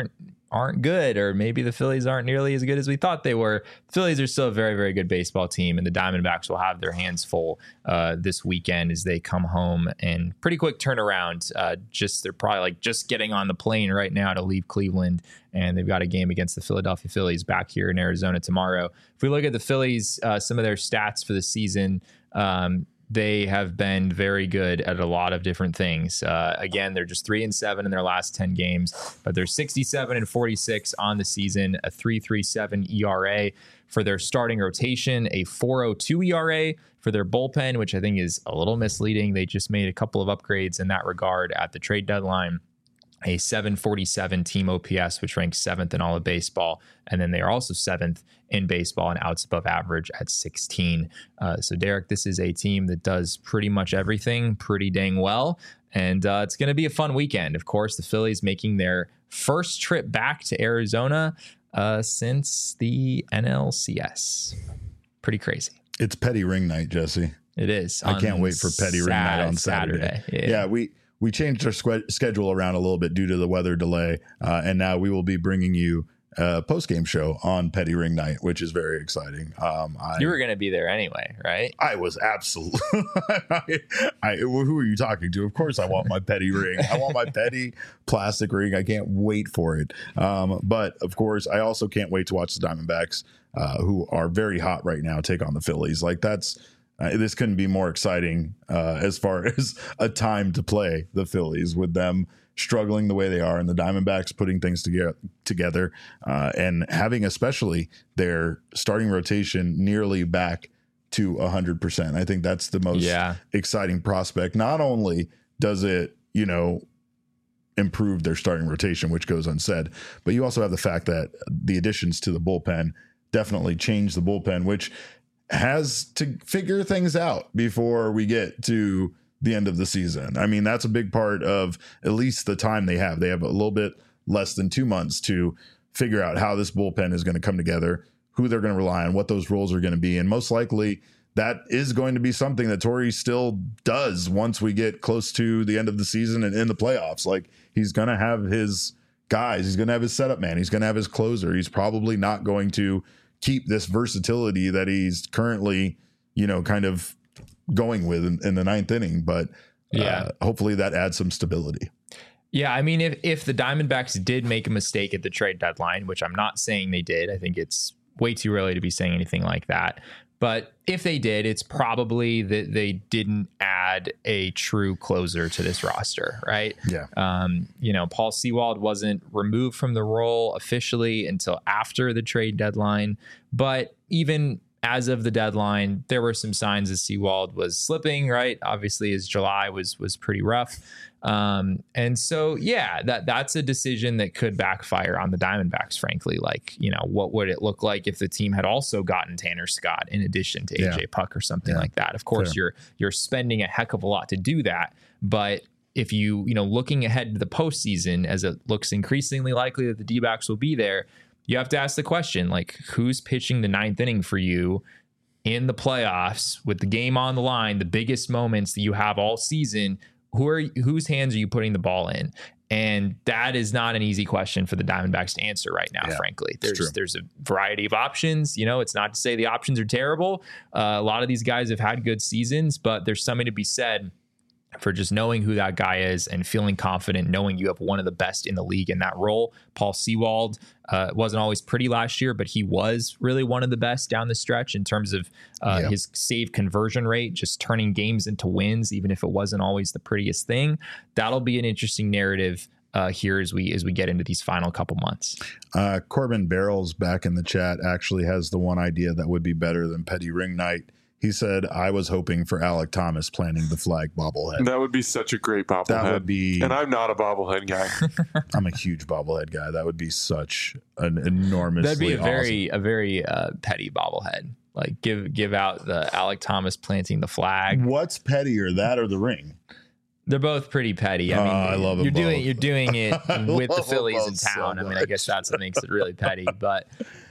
aren't good, or maybe the Phillies aren't nearly as good as we thought they were. The Phillies are still a very, very good baseball team, and the Diamondbacks will have their hands full this weekend as they come home and pretty quick turnaround. They're probably like just getting on the plane right now to leave Cleveland, and they've got a game against the Philadelphia Phillies back here in Arizona tomorrow. If we look at the Phillies, some of their stats for the season, they have been very good at a lot of different things. Again, they're just 3-7 in their last 10 games, but they're 67-46 on the season, a 3.37 ERA for their starting rotation, a 4.02 ERA for their bullpen, which I think is a little misleading. They just made a couple of upgrades in that regard at the trade deadline. A 747 team OPS, which ranks 7th in all of baseball. And then they are also 7th in baseball in outs above average at 16. So, Derek, this is a team that does pretty much everything pretty dang well. And it's going to be a fun weekend. Of course, the Phillies making their first trip back to Arizona since the NLCS. Pretty crazy. It's Petty Ring Night, Jesse. It is. I can't wait for Petty Ring Night on Saturday. Yeah, we changed our schedule around a little bit due to the weather delay, and now we will be bringing you a post-game show on Petty Ring Night, which is very exciting. You were going to be there anyway, right? I was absolutely. Who are you talking to? Of course, I want my Petty ring. I want my Petty plastic ring. I can't wait for it. But of course, I also can't wait to watch the Diamondbacks, who are very hot right now, take on the Phillies. Like that's. This couldn't be more exciting as far as a time to play the Phillies, with them struggling the way they are and the Diamondbacks putting things together and having especially their starting rotation nearly back to 100%. I think that's the most exciting prospect. Not only does it, improve their starting rotation, which goes unsaid, but you also have the fact that the additions to the bullpen definitely changed the bullpen, which has to figure things out before we get to the end of the season. I mean, that's a big part of at least the time they have. They have a little bit less than 2 months to figure out how this bullpen is going to come together, who they're going to rely on, what those roles are going to be. And most likely that is going to be something that Torey still does once we get close to the end of the season and in the playoffs. Like, he's going to have his guys. He's going to have his setup man. He's going to have his closer. He's probably not going to keep this versatility that he's currently, kind of going with in the ninth inning. But hopefully that adds some stability. Yeah, I mean, if the Diamondbacks did make a mistake at the trade deadline, which I'm not saying they did, I think it's way too early to be saying anything like that. But if they did, it's probably that they didn't add a true closer to this roster, right? Yeah. Paul Sewald wasn't removed from the role officially until after the trade deadline. But even as of the deadline, there were some signs that Sewald was slipping, right? Obviously, his July was pretty rough. And so, that's a decision that could backfire on the Diamondbacks, frankly. Like, what would it look like if the team had also gotten Tanner Scott in addition to AJ Puck or something like that? Of course, you're spending a heck of a lot to do that. But if looking ahead to the postseason, as it looks increasingly likely that the D-backs will be there, you have to ask the question, like, who's pitching the ninth inning for you in the playoffs with the game on the line, the biggest moments that you have all season? Whose hands are you putting the ball in? And that is not an easy question for the Diamondbacks to answer right now, frankly. There's a variety of options. It's not to say the options are terrible. A lot of these guys have had good seasons, but there's something to be said for just knowing who that guy is and feeling confident, knowing you have one of the best in the league in that role. Paul Sewald wasn't always pretty last year, but he was really one of the best down the stretch in terms of his save conversion rate, just turning games into wins, even if it wasn't always the prettiest thing. That'll be an interesting narrative here as we get into these final couple months. Corbin Barrels back in the chat actually has the one idea that would be better than Petty Ring Night. He said, I was hoping for Alec Thomas planting the flag bobblehead. That would be such a great bobblehead. That would be. And I'm not a bobblehead guy. I'm a huge bobblehead guy. That would be such an enormously That'd be a very petty bobblehead. Like give out the Alec Thomas planting the flag. What's pettier, that or the ring? They're both pretty petty. I mean, I love them you're doing it with the Phillies in both town. so I mean, I guess that's what makes it really petty. But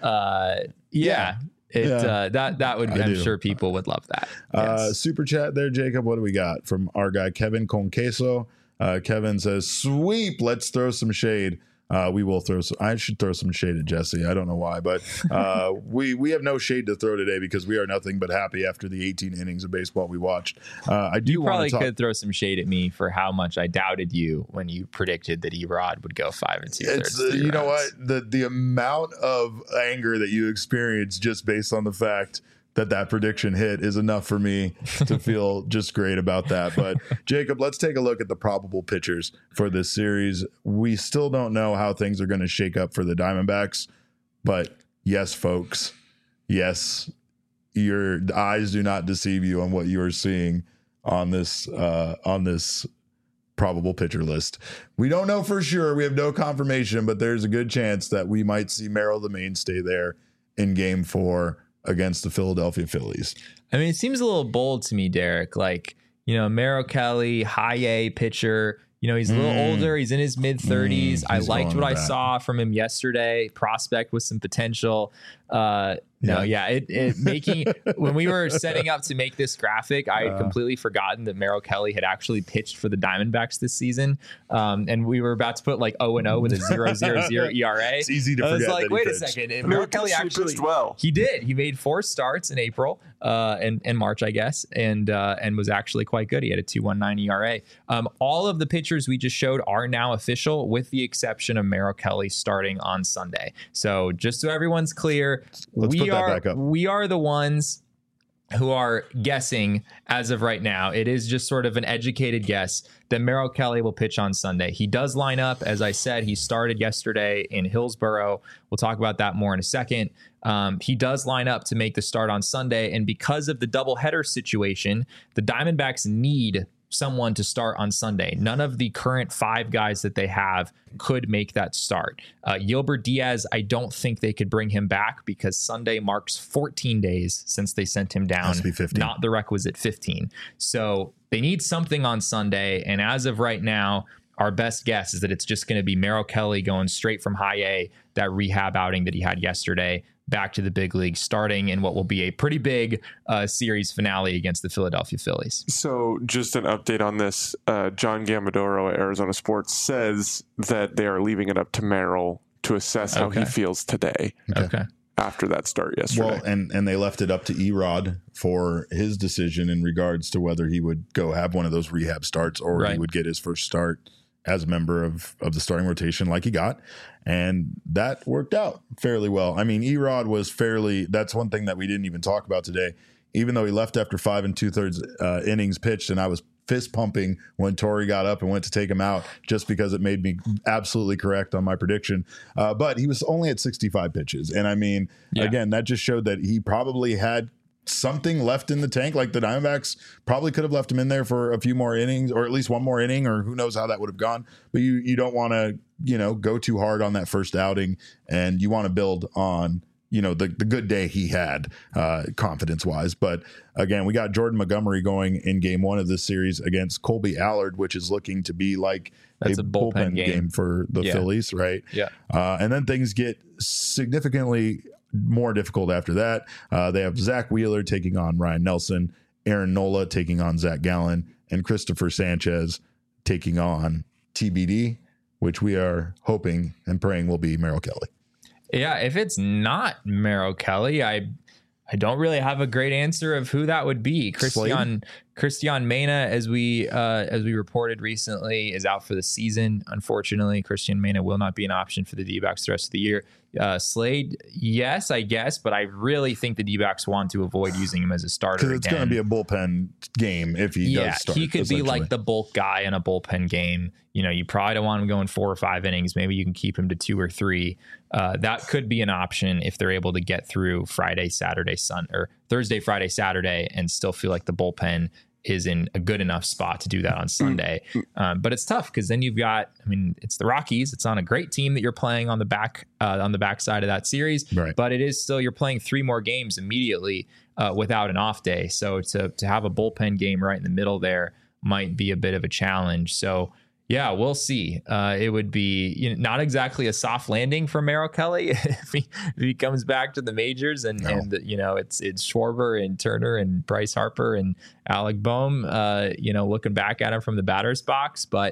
that would be, I'm sure people would love that. Yes. Super chat there, Jacob. What do we got from our guy Kevin Conqueso? Kevin says, sweep, let's throw some shade We will throw some, I should throw some shade at Jesse. I don't know why, but we have no shade to throw today because we are nothing but happy after the 18 innings of baseball we watched. I do You want probably to talk. could throw some shade at me for how much I doubted you when you predicted that Erod would go 5 2/3. It's you know what, the amount of anger that you experience just based on the fact that prediction hit is enough for me to feel just great about that. But Jacob, let's take a look at the probable pitchers for this series. We still don't know how things are going to shake up for the Diamondbacks, but yes, folks, yes, your eyes do not deceive you on what you are seeing on this probable pitcher list. We don't know for sure. We have no confirmation, but there's a good chance that we might see Merrill the mainstay there in Game 4 against the Philadelphia Phillies. I mean, it seems a little bold to me, Derek. Like, Merrill Kelly, high A pitcher. He's a little older. He's in his mid 30s. I liked what I saw from him yesterday. Prospect with some potential. It making when we were setting up to make this graphic, I had completely forgotten that Merrill Kelly had actually pitched for the Diamondbacks this season, and we were about to put like 0-0 with a 0.00 ERA. It's easy to forget. I was like, that wait a pitched. second, Merrill Kelly actually pitched well. He did. He made 4 starts in April and March, I guess, and was actually quite good. He had a 2.19 ERA. All of the pitchers we just showed are now official, with the exception of Merrill Kelly starting on Sunday. So just so everyone's clear, Let's put that back up. We are the ones who are guessing as of right now. It is just sort of an educated guess that Merrill Kelly will pitch on Sunday. He does line up. As I said, he started yesterday in Hillsboro. We'll talk about that more in a second. He does line up to make the start on Sunday. And because of the doubleheader situation, the Diamondbacks need someone to start on Sunday. None of the current 5 guys that they have could make that start. Gilbert Diaz, I don't think they could bring him back because Sunday marks 14 days since they sent him down, Must be 15. not the requisite 15. So they need something on Sunday. And as of right now, our best guess is that it's just going to be Merrill Kelly going straight from high A, that rehab outing that he had yesterday, back to the big league, starting in what will be a pretty big series finale against the Philadelphia Phillies. So just an update on this. John Gamadoro at Arizona Sports says that they are leaving it up to Merrill to assess how he feels today. Okay. After that start yesterday. Well, and they left it up to Erod for his decision in regards to whether he would go have one of those rehab starts or he would get his first start as a member of the starting rotation like he got. And that worked out fairly well. I mean, Erod was that's one thing that we didn't even talk about today. Even though he left after 5 2/3 innings pitched, and I was fist pumping when Torrey got up and went to take him out just because it made me absolutely correct on my prediction. But he was only at 65 pitches. And I mean, again, that just showed that he probably had something left in the tank. Like the Diamondbacks probably could have left him in there for a few more innings, or at least one more inning, or who knows how that would have gone. But you don't want to, go too hard on that first outing, and you want to build on, the good day he had confidence wise. But again, we got Jordan Montgomery going in Game 1 of this series against Colby Allard, which is looking to be like That's a bullpen game for the Phillies, right? Yeah. And then things get significantly more difficult after that. They have Zach Wheeler taking on Ryan Nelson, Aaron Nola taking on Zach Gallen, and Christopher Sanchez taking on TBD, which we are hoping and praying will be Merrill Kelly. Yeah, if it's not Merrill Kelly, I don't really have a great answer of who that would be. Christian Mena, as we reported recently, is out for the season. Unfortunately, Christian Mena will not be an option for the D-backs the rest of the year. Slade, yes, I guess, but I really think the D-backs want to avoid using him as a starter because it's going to be a bullpen game if he does start. He could be like the bulk guy in a bullpen game. You probably don't want him going 4 or 5 innings. Maybe you can keep him to 2 or 3. That could be an option if they're able to get through Friday, Saturday, or Thursday, Friday, Saturday, and still feel like the bullpen is in a good enough spot to do that on Sunday. But it's tough because then you've got, it's the Rockies. It's on a great team that you're playing on the back side of that series. Right. But it is still, you're playing 3 more games immediately without an off day. So to have a bullpen game right in the middle there might be a bit of a challenge. So yeah, we'll see. It would be not exactly a soft landing for Merrill Kelly if he comes back to the majors and it's Schwarber and Turner and Bryce Harper and Alec Boehm, looking back at him from the batter's box. But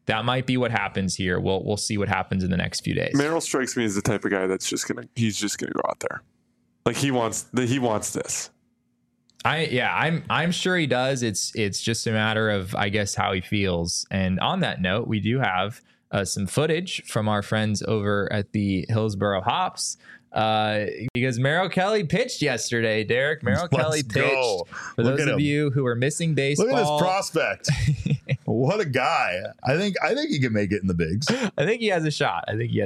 that might be what happens here. We'll see what happens in the next few days. Merrill strikes me as the type of guy that's he's just gonna go out there. Like he wants this. I'm sure he does. It's just a matter of, I guess, how he feels. And on that note, we do have some footage from our friends over at the Hillsboro Hops because Merrill Kelly pitched yesterday. Derek, Merrill Kelly pitched. For those of you who are missing baseball, look at his prospect. What a guy! I think he can make it in the bigs. I think he has a shot.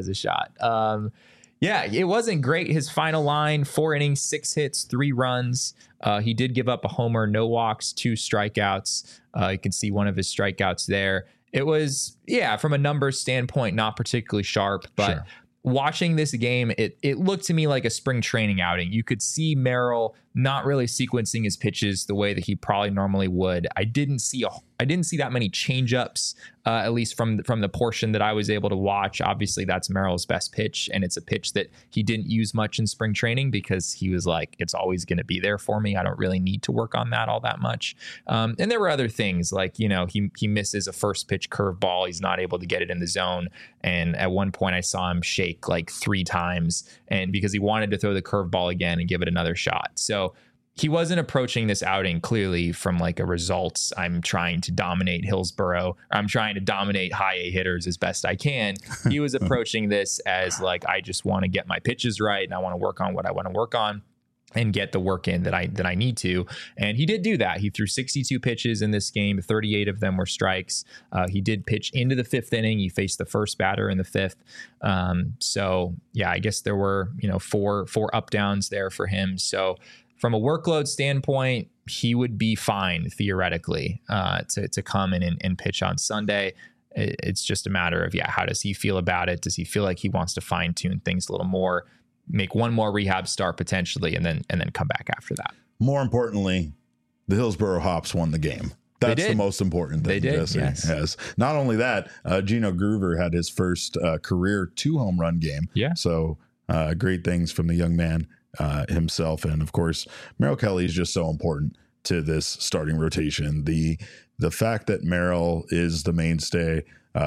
Yeah, it wasn't great. His final line, 4 innings, 6 hits, 3 runs. He did give up a homer, no walks, 2 strikeouts. You can see one of his strikeouts there. It was, from a numbers standpoint, not particularly sharp, but sure. Watching this game, it looked to me like a spring training outing. You could see Merrill not really sequencing his pitches the way that he probably normally would. I didn't see that many changeups, at least from the portion that I was able to watch. Obviously, that's Merrill's best pitch, and it's a pitch that he didn't use much in spring training because he was like, it's always going to be there for me. I don't really need to work on that all that much. And there were other things like, he misses a first pitch curveball. He's not able to get it in the zone. And at one point I saw him shake like 3 times, and because he wanted to throw the curveball again and give it another shot. So he wasn't approaching this outing clearly from like a results. I'm trying to dominate Hillsboro. Or I'm trying to dominate high A hitters as best I can. He was approaching this as like, I just want to get my pitches right, and I want to work on what I want to work on and get the work in that I need to. And he did do that. He threw 62 pitches in this game. 38 of them were strikes. He did pitch into the 5th inning. He faced the first batter in the 5th. So I guess there were, 4 up downs there for him. So from a workload standpoint, he would be fine theoretically to come in and pitch on Sunday. It's just a matter of, how does he feel about it? Does he feel like he wants to fine tune things a little more, make one more rehab start potentially, and then come back after that? More importantly, the Hillsboro Hops won the game. That's the most important thing. They did, Jesse yes. has. Not only that, Gino Groover had his first career 2 home run game. Yeah. So great things from the young man himself. And of course, Merrill Kelly is just so important to this starting rotation. The fact that Merrill is the mainstay,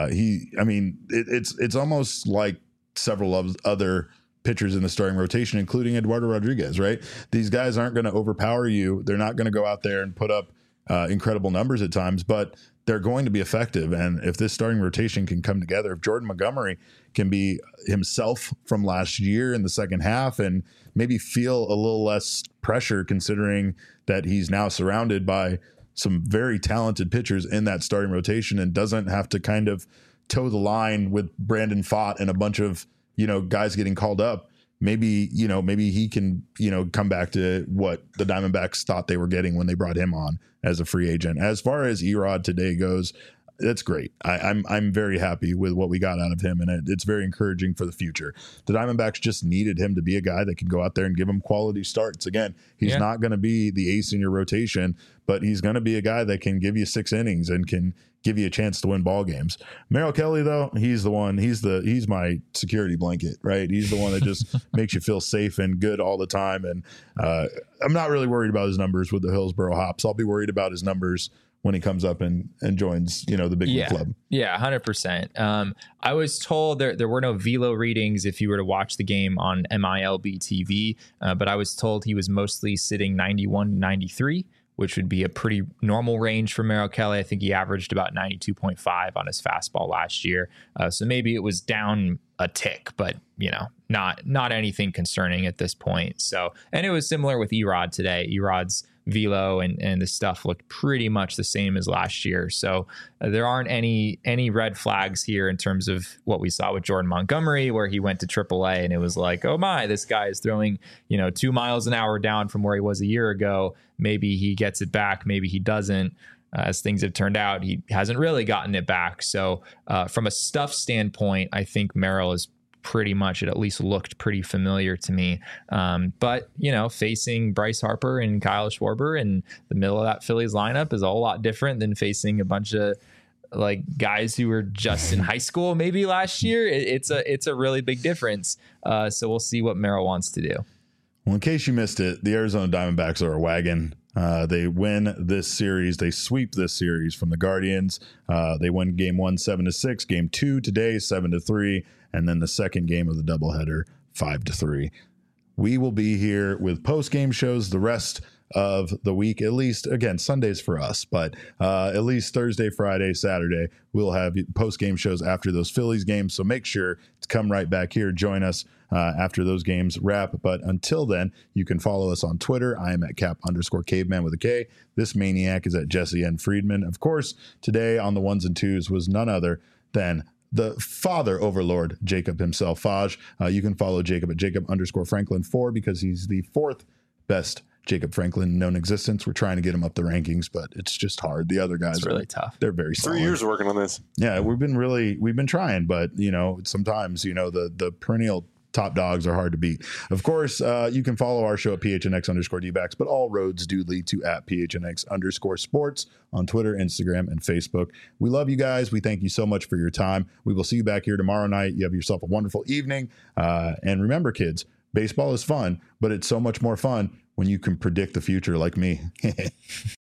it's almost like several of other pitchers in the starting rotation, including Eduardo Rodriguez, right? These guys aren't going to overpower you. They're not going to go out there and put up incredible numbers at times, but they're going to be effective. And if this starting rotation can come together, if Jordan Montgomery can be himself from last year in the second half and maybe feel a little less pressure, considering that he's now surrounded by some very talented pitchers in that starting rotation and doesn't have to kind of toe the line with Brandon Pfaadt and a bunch of, guys getting called up. Maybe he can, come back to what the Diamondbacks thought they were getting when they brought him on as a free agent. As far as Erod today goes, that's great. I'm very happy with what we got out of him, and it's very encouraging for the future. The Diamondbacks just needed him to be a guy that can go out there and give him quality starts. Again, he's not going to be the ace in your rotation, but he's going to be a guy that can give you 6 innings and can give you a chance to win ball games. Merrill Kelly, though, he's the one. He's my security blanket, right? He's the one that just makes you feel safe and good all the time. And I'm not really worried about his numbers with the Hillsboro Hops. I'll be worried about his numbers when he comes up and joins, the big league club. Yeah, 100%. I was told there were no velo readings if you were to watch the game on MILB TV, but I was told he was mostly sitting 91, 93, which would be a pretty normal range for Merrill Kelly. I think he averaged about 92.5 on his fastball last year. So maybe it was down a tick, but not anything concerning at this point. So, and it was similar with Erod today. Erod's velo and the stuff looked pretty much the same as last year. So there aren't any red flags here in terms of what we saw with Jordan Montgomery, where he went to AAA and it was like, oh my, this guy is throwing 2 miles an hour down from where he was a year ago. Maybe he gets it back, maybe he doesn't. As things have turned out, he hasn't really gotten it back. So from a stuff standpoint, I think Merrill is pretty much, it at least looked pretty familiar to me. But, facing Bryce Harper and Kyle Schwarber in the middle of that Phillies lineup is a whole lot different than facing a bunch of like guys who were just in high school maybe last year. It's a really big difference. So we'll see what Merrill wants to do. Well, in case you missed it, the Arizona Diamondbacks are a wagon. They win this series. They sweep this series from the Guardians. They win game 1 7-6, game 2 today 7-3, and then the second game of the doubleheader 5-3. We will be here with post-game shows the rest of the week, at least, again, Sundays for us, but at least Thursday, Friday, Saturday, we'll have post-game shows after those Phillies games. So make sure to come right back here, join us after those games wrap. But until then, you can follow us on Twitter. I am at Cap_caveman with a K. This maniac is at Jesse N. Friedman. Of course, today on the ones and twos was none other than the father overlord, Jacob himself, Faj. You can follow Jacob at Jacob_Franklin4 because he's the fourth best Jacob Franklin known existence. We're trying to get him up the rankings, but it's just hard. The other guys it's really tough. They're very solid. 3 years working on this. Yeah, we've been trying, but sometimes the perennial top dogs are hard to beat. Of course, you can follow our show at PHNX_DBacks, but all roads do lead to at PHNX_sports on Twitter, Instagram, and Facebook. We love you guys. We thank you so much for your time. We will see you back here tomorrow night. You have yourself a wonderful evening. And remember, kids, baseball is fun, but it's so much more fun when you can predict the future like me.